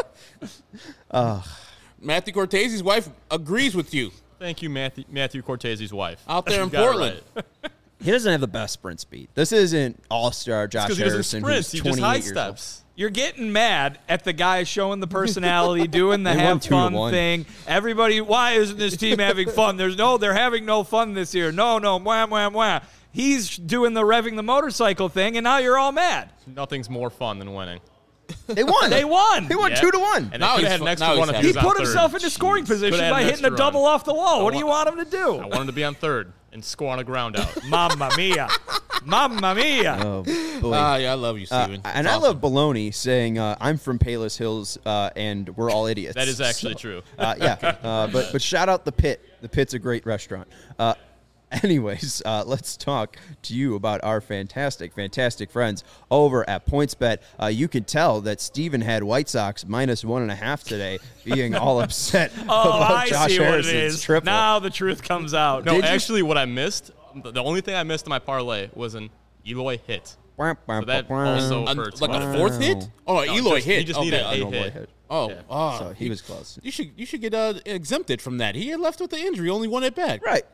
box. Matthew Cortese's wife agrees with you Thank you, Matthew Cortese's wife. out there in You got it Portland. right. he doesn't have the best sprint speed. This isn't all-star Josh Because he doesn't Harrison, sprint. who's He 28 just high years old. steps. You're getting mad at the guy showing the personality, doing the They won have fun 2-1. thing. Everybody, why isn't this team having fun? They're having no fun this year. No, wham, wham, wham. He's doing the revving the motorcycle thing, and now you're all mad. Nothing's more fun than winning. They won. They won. He won Yeah. 2-1. And Now they could he's have had fu- an extra now one he's if happy. He was on put third. himself into scoring position Could've had by an hitting a extra double run. off the wall. What do you want him to I do? wanted to be on third and score on a ground out. Mamma mia. Mamma mia. Oh boy. Yeah, I love you, Steven. And It's I love awesome. Baloney saying, "I'm from Palos Hills, and we're all idiots." That is actually true. But shout out the Pit. The Pit's a great restaurant. Anyways, let's talk to you about our fantastic friends over at PointsBet. You could tell that Steven had White Sox minus 1.5 today, being all upset Oh, about I Josh see what it Harrison's is. triple. Now the truth comes out. No, Did you- actually, what I missed, the only thing I missed in my parlay was an Eloy hit. So that also hurts. Like my a fourth hit? Oh, No, Eloy just- hit. He just Okay. needed a Eloy hit. hit. Oh, Yeah. So he was close. You should get exempted from that. He had left with the injury, only one at bat. Right.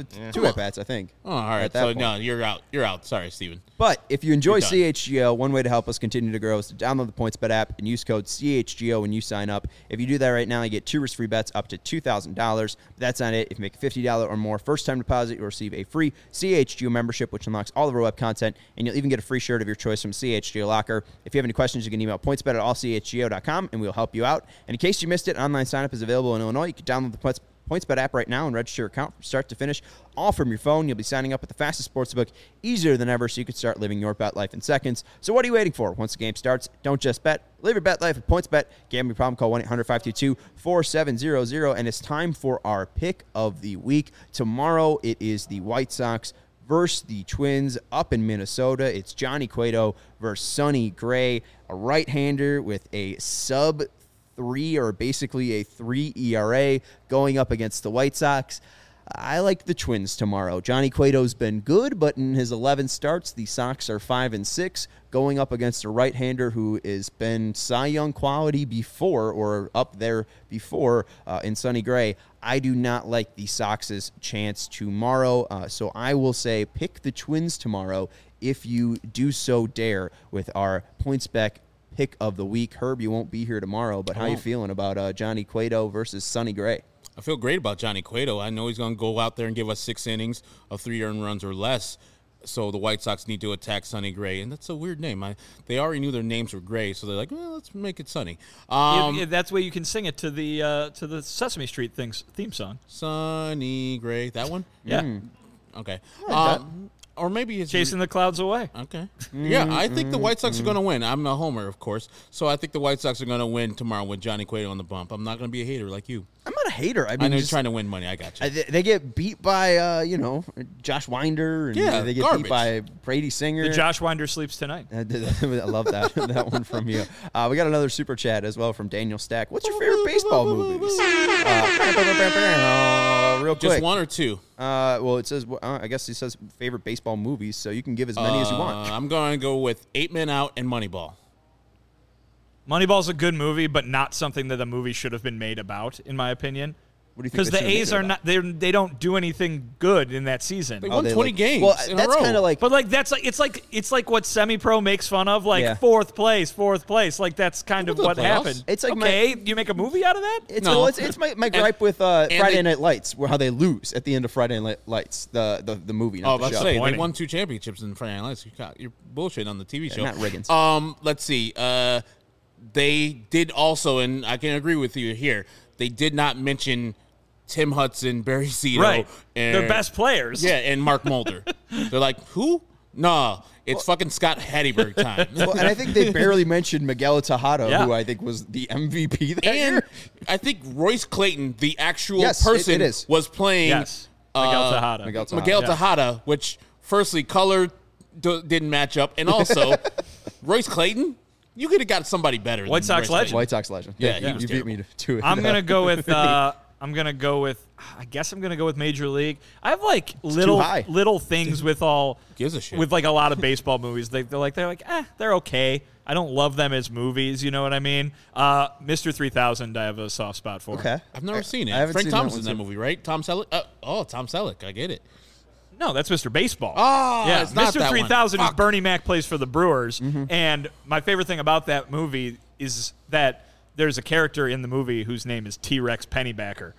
2 at bats, I think. Oh, all right. At that So point. no, you're out. You're out. Sorry, Steven. But if you enjoy You're done. CHGO, one way to help us continue to grow is to download the PointsBet app and use code CHGO when you sign up. If you do that right now, you get 2 risk-free bets up to $2,000. But that's not it. If you make a $50 or more first-time deposit, you'll receive a free CHGO membership, which unlocks all the web content, and you'll even get a free shirt of your choice from CHGO Locker. If you have any questions, you can email pointsbet@allchgo.com, and we'll help you out. And in case you missed it, online sign-up is available in Illinois. You can download the PointsBet app right now and register your account from start to finish, all from your phone. You'll be signing up at the fastest sportsbook, easier than ever, so you can start living your bet life in seconds. So what are you waiting for? Once the game starts, don't just bet. Live your bet life at PointsBet. Gambling problem, call 1-800-522-4700. And it's time for our pick of the week. Tomorrow, it is the White Sox versus the Twins up in Minnesota. It's Johnny Cueto versus Sonny Gray, a right-hander with a sub 3 or basically a 3 ERA going up against the White Sox. I like the Twins tomorrow. Johnny Cueto's been good, but in his 11 starts, the Sox are 5-6, going up against a right-hander who has been Cy Young quality before, or up there before, in Sonny Gray. I do not like the Sox's chance tomorrow, so I will say pick the Twins tomorrow if you do so dare with our PointsBet pick of the week. Herb, you won't be here tomorrow, but how you feeling about Johnny Cueto versus Sonny Gray? I feel great about Johnny Cueto. I know he's going to go out there and give us 6 innings of 3 earned runs or less. So the White Sox need to attack Sonny Gray, and that's a weird name. They already knew their names were Gray, so they're like, well, let's make it Sonny. That's the way you can sing it to the Sesame Street theme song. Sonny Gray, that one? Yeah. Okay. Or maybe it's Chasing the clouds away. Okay. Yeah, I think the White Sox are going to win. I'm a homer, of course. So I think the White Sox are going to win tomorrow with Johnny Cueto on the bump. I'm not going to be a hater like you. I'm not a hater. I I mean, know you're just- trying to win money. I got you. they get beat by, Josh Winder, and Yeah, they get garbage. beat by Brady Singer. The Josh Winder sleeps tonight. I love that that one from you. We got another super chat as well from Daniel Stack. What's your favorite baseball movies? Real quick. Just one or two? Well, it says, I guess he says favorite baseball movies, so you can give as many as you want. I'm going to go with 8 Men Out and Moneyball. Moneyball's a good movie, but not something that the movie should have been made about, in my opinion. What do you think? Because they the should have A's made it are not they don't do anything good in that season. They about? won They 20 like- games Well, in a that's row. kind of like. But like it's like what semi-pro makes fun of, like Yeah. fourth place. Like that's kind of Well, what the playoffs. happened. It's like okay, you make a movie out of that? It's my gripe with Friday they- Night Lights, where how they lose at the end of Friday Night Lights, the movie, not Oh, the let's show. say they Disappointing. won 2 championships in Friday Night Lights. You're bullshit on the TV show. not Riggins. Let's see. They did also, and I can agree with you here. They did not mention Tim Hudson, Barry Zito, Right. and They're best players. Yeah, and Mark Mulder. They're like, who? No, it's fucking Scott Hatteberg time. Well, and I think they barely mentioned Miguel Tejada, Yeah. who I think was the MVP that And year. I think Royce Clayton, the actual Yes, person, it is. was playing Yes. Miguel Tejada. Miguel Tejada, which firstly, color didn't match up, and also Royce Clayton, you could have got somebody better. White than Sox Royce legend. Clayton. White Sox legend. Yeah, he you was beat me to it. I'm gonna go with. I guess I'm gonna go with Major League. I have like high. little things with all Gives a shit. with like a lot of baseball movies. They're like they're okay. I don't love them as movies. You know what I mean? Mr. 3000, I have a soft spot for. Okay. I've never seen it. I haven't Frank seen that Thomas one in that too. movie, right? Tom Selleck. Tom Selleck. I get it. No, that's Mr. Baseball. Oh, yeah. it's not Mr. that one. 3000 is Fuck. Bernie Mac plays for the Brewers, Mm-hmm. and my favorite thing about that movie is that there's a character in the movie whose name is T-Rex Pennybacker.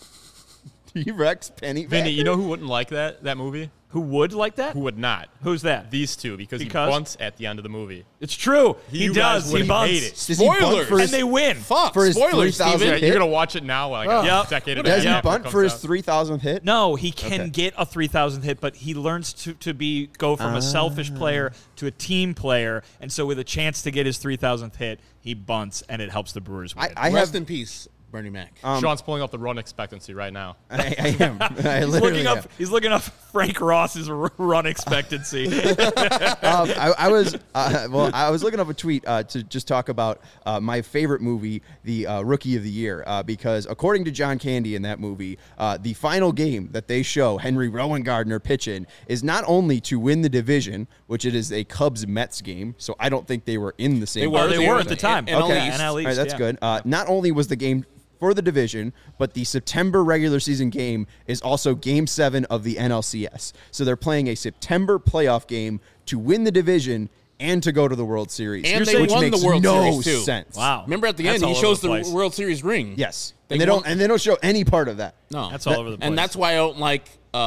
T-Rex Penny. Vinny, you know who wouldn't like that movie? Who would like that? Who would not? Who's that? These two, because he Because? bunts at the end of the movie. It's true. He You guys does. He would bunts. hate it. Does he bunt Spoilers. for And his, they win. Fuck. For his Spoilers, 3,000 Steven. hit? You're gonna watch it now, like a Yep. decade and a does half. he after it bunt comes for his out. 3,000th hit? No, he can Okay. get a 3,000 hit, but he learns to go from a selfish player to a team player, and so with a chance to get his 3,000th hit, he bunts, and it helps the Brewers win. I Rest have. in peace, Bernie Mac. Sean's pulling up the run expectancy right now. I am. I He's literally looking up. am. He's looking up Frank Ross's run expectancy. I was looking up a tweet to just talk about my favorite movie, the Rookie of the Year, because according to John Candy in that movie, the final game that they show Henry Rowan Gardner pitching is not only to win the division, which it is a Cubs-Mets game, so I don't think they were in the same. They were. They were at the time. NL Okay, East. NL All right, East, that's yeah. good. Not only was the game for the division, but the September regular season game is also Game 7 of the NLCS. So they're playing a September playoff game to win the division and to go to the World Series. And they which won makes the World no Series, too. sense. Wow. Remember at the That's end, he all over shows the the place. World Series ring. Yes, They and won- they don't show any part of that. No, That's all over the place. And that's why I don't like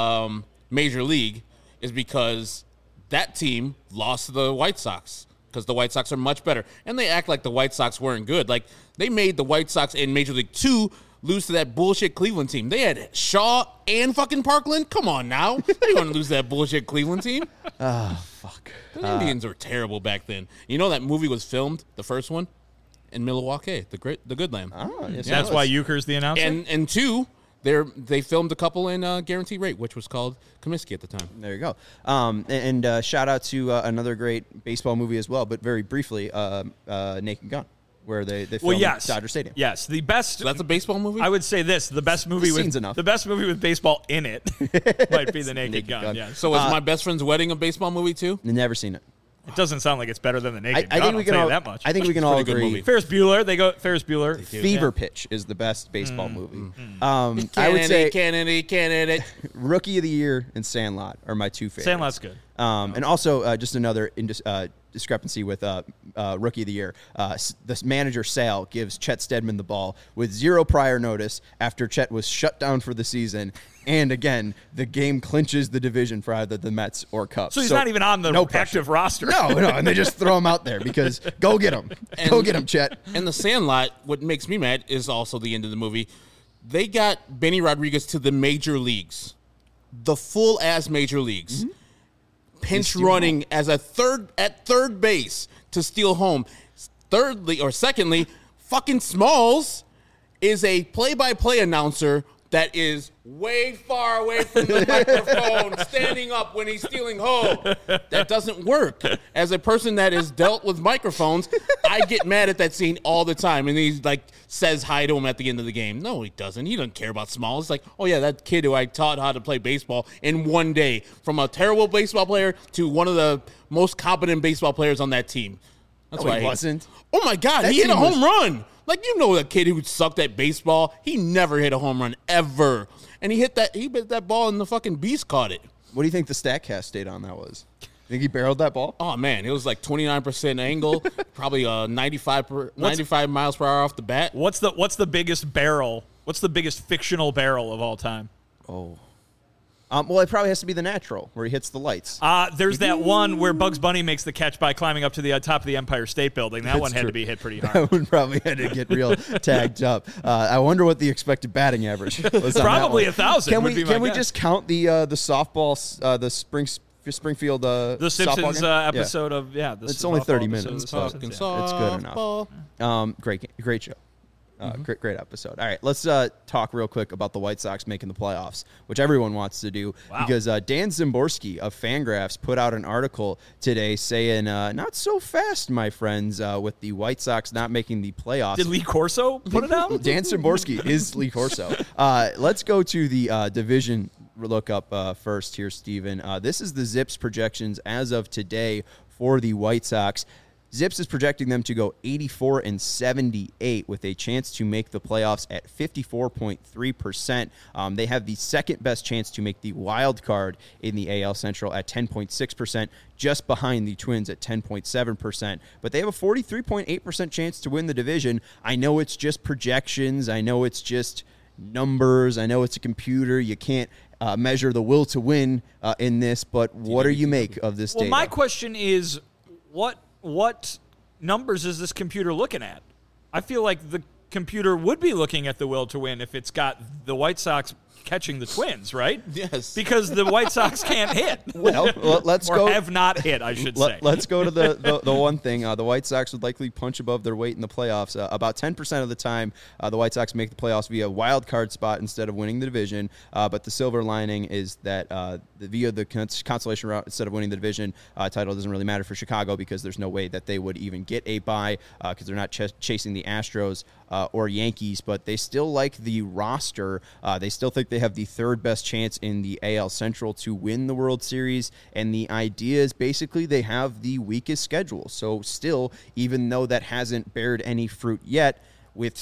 Major League, is because that team lost to the White Sox because the White Sox are much better, and they act like the White Sox weren't good. Like they made the White Sox in Major League 2 lose to that bullshit Cleveland team. They had Shaw and fucking Parkland. Come on now, they want to lose that bullshit Cleveland team. Fuck. The Indians were terrible back then. You know that movie was filmed, the first one, in Milwaukee, the Good Land. Oh, yes, That's why Euchre's the announcer. And two, they filmed a couple in Guaranteed Rate, which was called Comiskey at the time. There you go. And shout out to another great baseball movie as well, but very briefly, Naked Gun, where they filmed yes, Dodger Stadium. Yes, the best. So that's a baseball movie? I would say this: the best movie The with scene's enough. the best movie with baseball in it might be the Naked Naked Gun. Gun. Yes. So was My Best Friend's Wedding a baseball movie too? Never seen it. It doesn't sound like it's better than the Naked I Gun. think we I'll can tell all. you that much. I think we can all pretty good agree. movie. Ferris Bueller. They go Ferris Bueller. Fever Pitch is the best baseball movie. I would say Kennedy. Rookie of the Year and Sandlot are my two favorites. Sandlot's good. And also just another discrepancy with Rookie of the Year. This manager, Sal, gives Chet Steadman the ball with zero prior notice after Chet was shut down for the season. And again, the game clinches the division for either the Mets or Cubs. So he's not even on the no pressure. active roster. No, and they just throw him out there because go get him. Go get him, Chet. And The Sandlot, what makes me mad is also the end of the movie. They got Benny Rodriguez to the major leagues, the full ass major leagues. Pinch running as a third base to steal home. Secondly, fucking Smalls is a play-by-play announcer that is way far away from the microphone, standing up when he's stealing home. That doesn't work. As a person that has dealt with microphones, I get mad at that scene all the time. And he says hi to him at the end of the game. No, he doesn't. He doesn't care about Smalls. It's like, oh yeah, that kid who I taught how to play baseball in one day, from a terrible baseball player to one of the most competent baseball players on that team. That's No, why he wasn't. Oh my God, That he hit a team was- home run. Like, you know, a kid who sucked at baseball, he never hit a home run ever. And he hit that ball and the fucking beast caught it. What do you think the StatCast data on that was? Think he barreled that ball? Oh man, it was like 29% angle, probably 95 miles per hour off the bat. What's the biggest barrel? What's the biggest fictional barrel of all time? Oh. Well, it probably has to be the natural where he hits the lights. There's that one where Bugs Bunny makes the catch by climbing up to the top of the Empire State Building. That one had to be hit pretty hard. That one probably had to get real tagged up. I wonder what the expected batting average was. Probably 1,000. Can we just count the softball, the Springfield the Simpsons episode of it's only 30 minutes. It's good enough. Great show. Great episode. All right, let's talk real quick about the White Sox making the playoffs, which everyone wants to do, because Dan Szymborski of Fangraphs put out an article today saying, not so fast, my friends, with the White Sox not making the playoffs. Did Lee Corso put it out? Dan Szymborski is Lee Corso. Let's go to the division look up first here, Steven. This is the Zips projections as of today for the White Sox. Zips is projecting them to go 84-78 with a chance to make the playoffs at 54.3%. They have the second best chance to make the wild card in the AL Central at 10.6%, just behind the Twins at 10.7%. But they have a 43.8% chance to win the division. I know it's just projections. I know it's just numbers. I know it's a computer. You can't measure the will to win in this, but what do you make of this data? Well, my question is, what numbers is this computer looking at? I feel like the computer would be looking at the will to win if it's got the White Sox catching the Twins, right? Yes. Because the White Sox can't hit. Well, let's or go. have not hit, I should say. Let's go to the one thing. The White Sox would likely punch above their weight in the playoffs. About 10% of the time, the White Sox make the playoffs via wild card spot instead of winning the division. But the silver lining is that via the consolation route instead of winning the division title doesn't really matter for Chicago, because there's no way that they would even get a bye because they're not chasing the Astros or Yankees. But they still like the roster. They still think they have the third best chance in the AL Central to win the World Series, and the idea is basically they have the weakest schedule. So still, even though that hasn't bared any fruit yet, with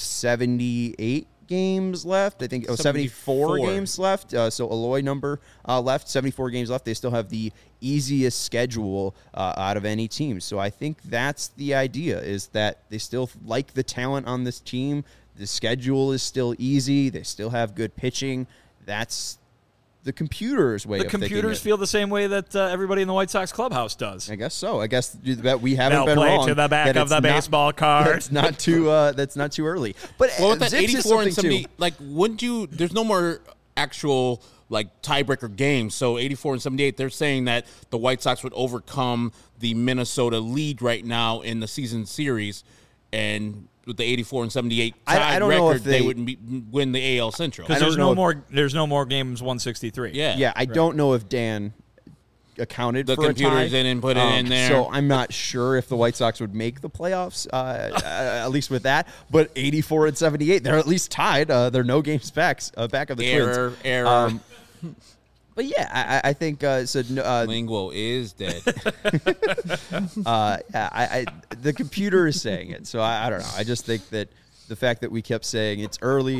78 games left, I think 74 games left, so Eloy number left, 74 games left, they still have the easiest schedule out of any team. So I think that's the idea, is that they still like the talent on this team. The schedule is still easy. They still have good pitching. That's the computer's way of thinking. The computers feel the same way that everybody in the White Sox clubhouse does. I guess so. I guess that we haven't been play wrong. To the back of the baseball card. That's not too early. But with that 84 and 70, like, wouldn't you? There's no more actual like tiebreaker games. So 84 and 78, they're saying that the White Sox would overcome the Minnesota lead right now in the season series, and with the 84 and 78 tied record, they would win the AL Central. Because there's no more games 163. Yeah. I don't know if Dan accounted the for a tie. The computers didn't put it in there. So I'm not sure if the White Sox would make the playoffs, at least with that. But 84 and 78, they're at least tied. They're no games back of the Twins. Error. But yeah, I think Lingual is dead. The computer is saying it, so I don't know. I just think that the fact that we kept saying it's early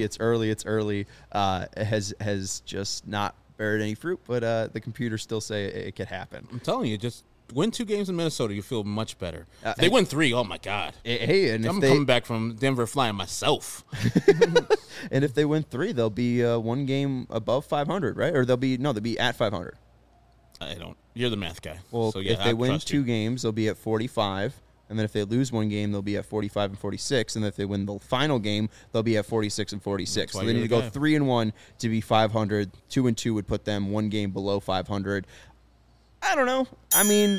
has just not bared any fruit. But the computers still say it could happen. I'm telling you, just win 2 games in Minnesota, you feel much better. If they win 3, oh my God. Hey, and I'm coming back from Denver flying myself. And if they win 3, they'll be 1 game above 500, right? Or they'll be at 500. You're the math guy. Well, so, yeah, if they win 2 games, they'll be at 45. And then if they lose 1 game, they'll be at 45 and 46. And if they win the final game, they'll be at 46 and 46. So they need to go 3-1 to be 500. 2-2 would put them 1 game below 500. I don't know. I mean,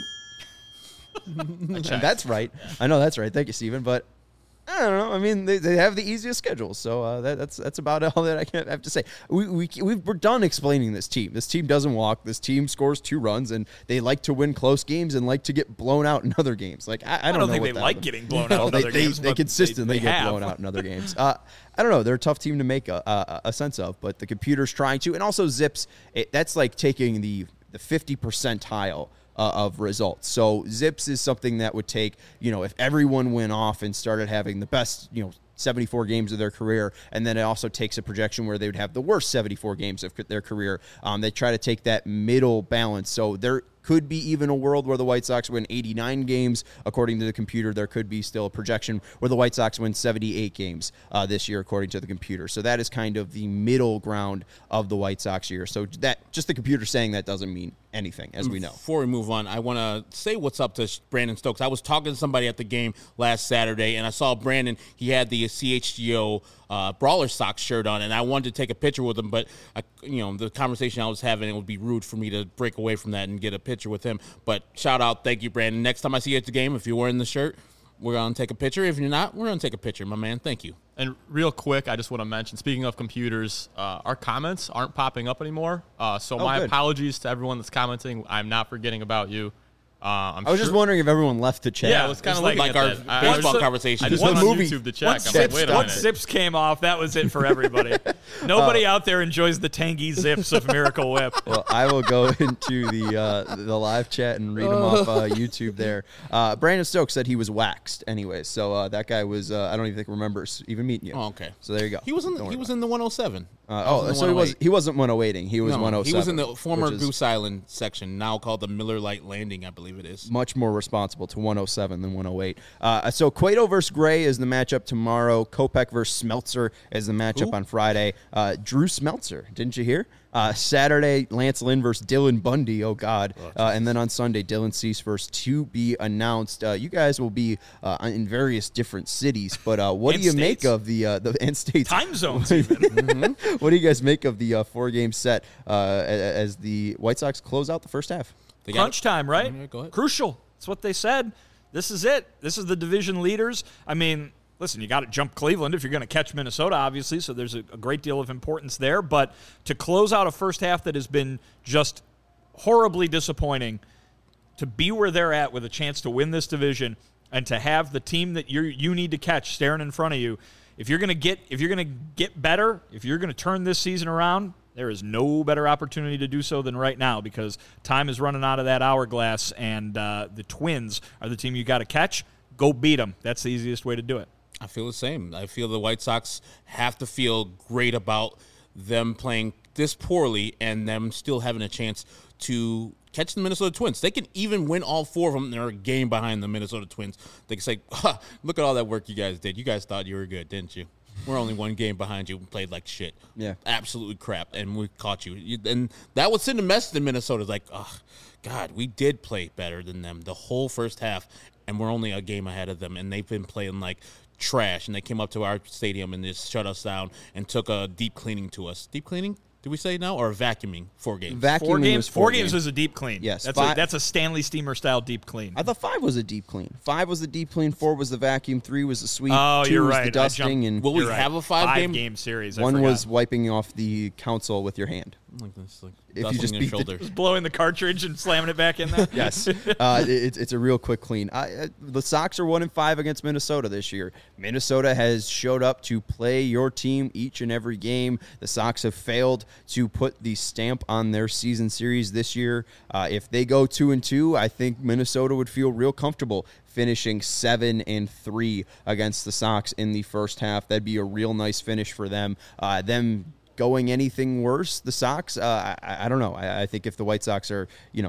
that's right. I know that's right. Thank you, Steven. But I don't know. I mean, they have the easiest schedule, so that's about all that I have to say. We're done explaining this team. This team doesn't walk. This team scores 2 runs, and they like to win close games and like to get blown out in other games. Like I don't know think what they like getting blown out in other games. They consistently get blown out in other games. I don't know. They're a tough team to make a sense of, but the computer's trying to. And also Zips, that's like taking the 50 percentile of results. So Zips is something that would take, if everyone went off and started having the best, 74 games of their career, and then it also takes a projection where they would have the worst 74 games of their career. They try to take that middle balance. So they're could be even a world where the White Sox win 89 games. According to the computer, there could be still a projection where the White Sox win 78 games this year, according to the computer. So that is kind of the middle ground of the White Sox year. So that just the computer saying that doesn't mean anything, as we know. Before we move on, I want to say what's up to Brandon Stokes. I was talking to somebody at the game last Saturday, and I saw Brandon. He had the CHGO Brawler Sox shirt on, and I wanted to take a picture with him, but the conversation I was having, it would be rude for me to break away from that and get a picture with him. But shout out, thank you, Brandon. Next time I see you at the game, if you're wearing the shirt, we're going to take a picture. If you're not, we're going to take a picture, my man. Thank you. And real quick, I just want to mention, speaking of computers, our comments aren't popping up anymore. So my apologies to everyone that's commenting. I'm not forgetting about you. I was just wondering if everyone left the chat. Yeah, I was kind of like our baseball conversation. I just went on YouTube to check. Once Zips came off, that was it for everybody. Nobody out there enjoys the tangy Zips of Miracle Whip. Well, I will go into the live chat and read them off YouTube there. Brandon Stokes said he was waxed anyway, so that guy was I don't even think remembers even meeting you. Oh, okay. So there you go. He was in the 107. So he wasn't 108ing. He was 107. He was in the former Goose Island section, now called the Miller Lite Landing, I believe it is. Much more responsible to 107 than 108. So Cueto versus Gray is the matchup tomorrow. Kopech versus Smeltzer is the matchup on Friday. Drew Smeltzer, didn't you hear? Saturday, Lance Lynn versus Dylan Bundy. Oh, God. And then on Sunday, Dylan Cease versus to be announced. You guys will be in various different cities, but what do you make of the end states? Time zones, even. What do you guys make of the 4-game set as the White Sox close out the first half? Crunch time, right? Yeah, go ahead. Crucial. That's what they said. This is it. This is the division leaders. I mean, listen, you got to jump Cleveland if you're going to catch Minnesota, obviously, so there's a great deal of importance there. But to close out a first half that has been just horribly disappointing, to be where they're at with a chance to win this division and to have the team that you need to catch staring in front of you, if you're going to get better, if you're going to turn this season around, there is no better opportunity to do so than right now because time is running out of that hourglass, and the Twins are the team you got to catch. Go beat them. That's the easiest way to do it. I feel the same. I feel the White Sox have to feel great about them playing this poorly and them still having a chance to catch the Minnesota Twins. They can even win all 4 of them. They're a game behind the Minnesota Twins. They can say, look at all that work you guys did. You guys thought you were good, didn't you? We're only 1 game behind you and played like shit. Yeah. Absolutely crap. And we caught you. And that would send a message to Minnesota like, oh, God, we did play better than them the whole first half, and we're only a game ahead of them. And they've been playing like trash. And they came up to our stadium and just shut us down and took a deep cleaning to us. Deep cleaning? Do we say now, or vacuuming 4 games? Vacuuming 4 games is a deep clean. Yes. That's a Stanley Steamer style deep clean. I thought 5 was a deep clean. 5 was the deep clean. 4 was the vacuum. 3 was the sweep. 2 you're was right. the dusting. And will we have a 5-game series? 1 was wiping off the console with your hand. Like this, like If you just beat shoulder. Just blowing the cartridge and slamming it back in there. Yes, it's a real quick clean. The Sox are 1-5 against Minnesota this year. Minnesota has showed up to play your team each and every game. The Sox have failed to put the stamp on their season series this year. If they go 2-2, I think Minnesota would feel real comfortable finishing 7-3 against the Sox in the first half. That'd be a real nice finish for them. Them going anything worse, the Sox, I don't know. I think if the White Sox are,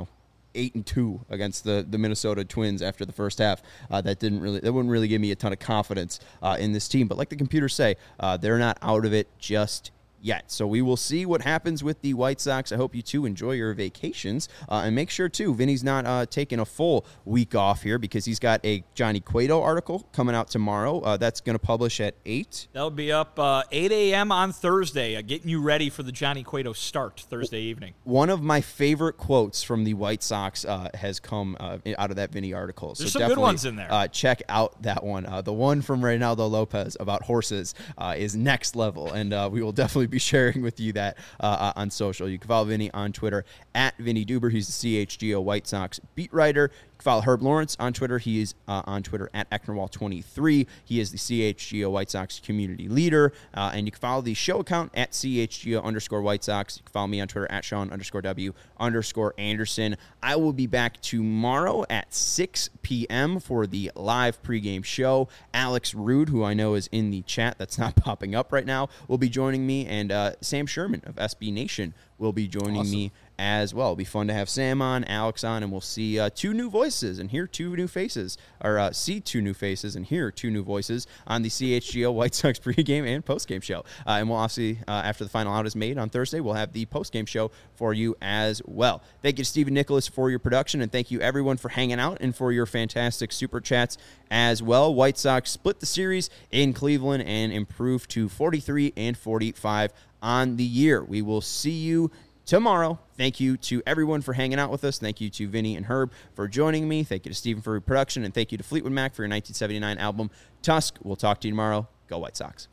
8-2 against the Minnesota Twins after the first half, that wouldn't really give me a ton of confidence in this team. But like the computers say, they're not out of it just yet. So we will see what happens with the White Sox. I hope you two enjoy your vacations. And make sure, too, Vinny's not taking a full week off here because he's got a Johnny Cueto article coming out tomorrow. That's going to publish at 8. That'll be up 8 a.m. on Thursday, getting you ready for the Johnny Cueto start Thursday evening. One of my favorite quotes from the White Sox has come out of that Vinny article. There's some good ones in there. Check out that one. The one from Reynaldo Lopez about horses is next level, and we will definitely be sharing with you that on social. You can follow Vinny on Twitter at Vinny Duber. He's the CHGO White Sox beat writer. You can follow Herb Lawrence on Twitter. He is on Twitter at Ecknerwall23. He is the CHGO White Sox community leader. And you can follow the show account at CHGO_White Sox. You can follow me on Twitter at Sean_W_Anderson. I will be back tomorrow at 6 p.m. for the live pregame show. Alex Rude, who I know is in the chat that's not popping up right now, will be joining me. And Sam Sherman of SB Nation will be joining me as well. It'll be fun to have Sam on, Alex on, and we'll see two new voices and hear two new faces, or see two new faces and hear two new voices on the CHGO White Sox pregame and postgame show. And we'll obviously, after the final out is made on Thursday, we'll have the postgame show for you as well. Thank you to Stephen Nicholas for your production, and thank you everyone for hanging out and for your fantastic super chats as well. White Sox split the series in Cleveland and improved to 43-45 on the year. We will see you tomorrow. Thank you to everyone for hanging out with us. Thank you to Vinny and Herb for joining me. Thank you to Stephen for your production, and thank you to Fleetwood Mac for your 1979 album, Tusk. We'll talk to you tomorrow. Go White Sox.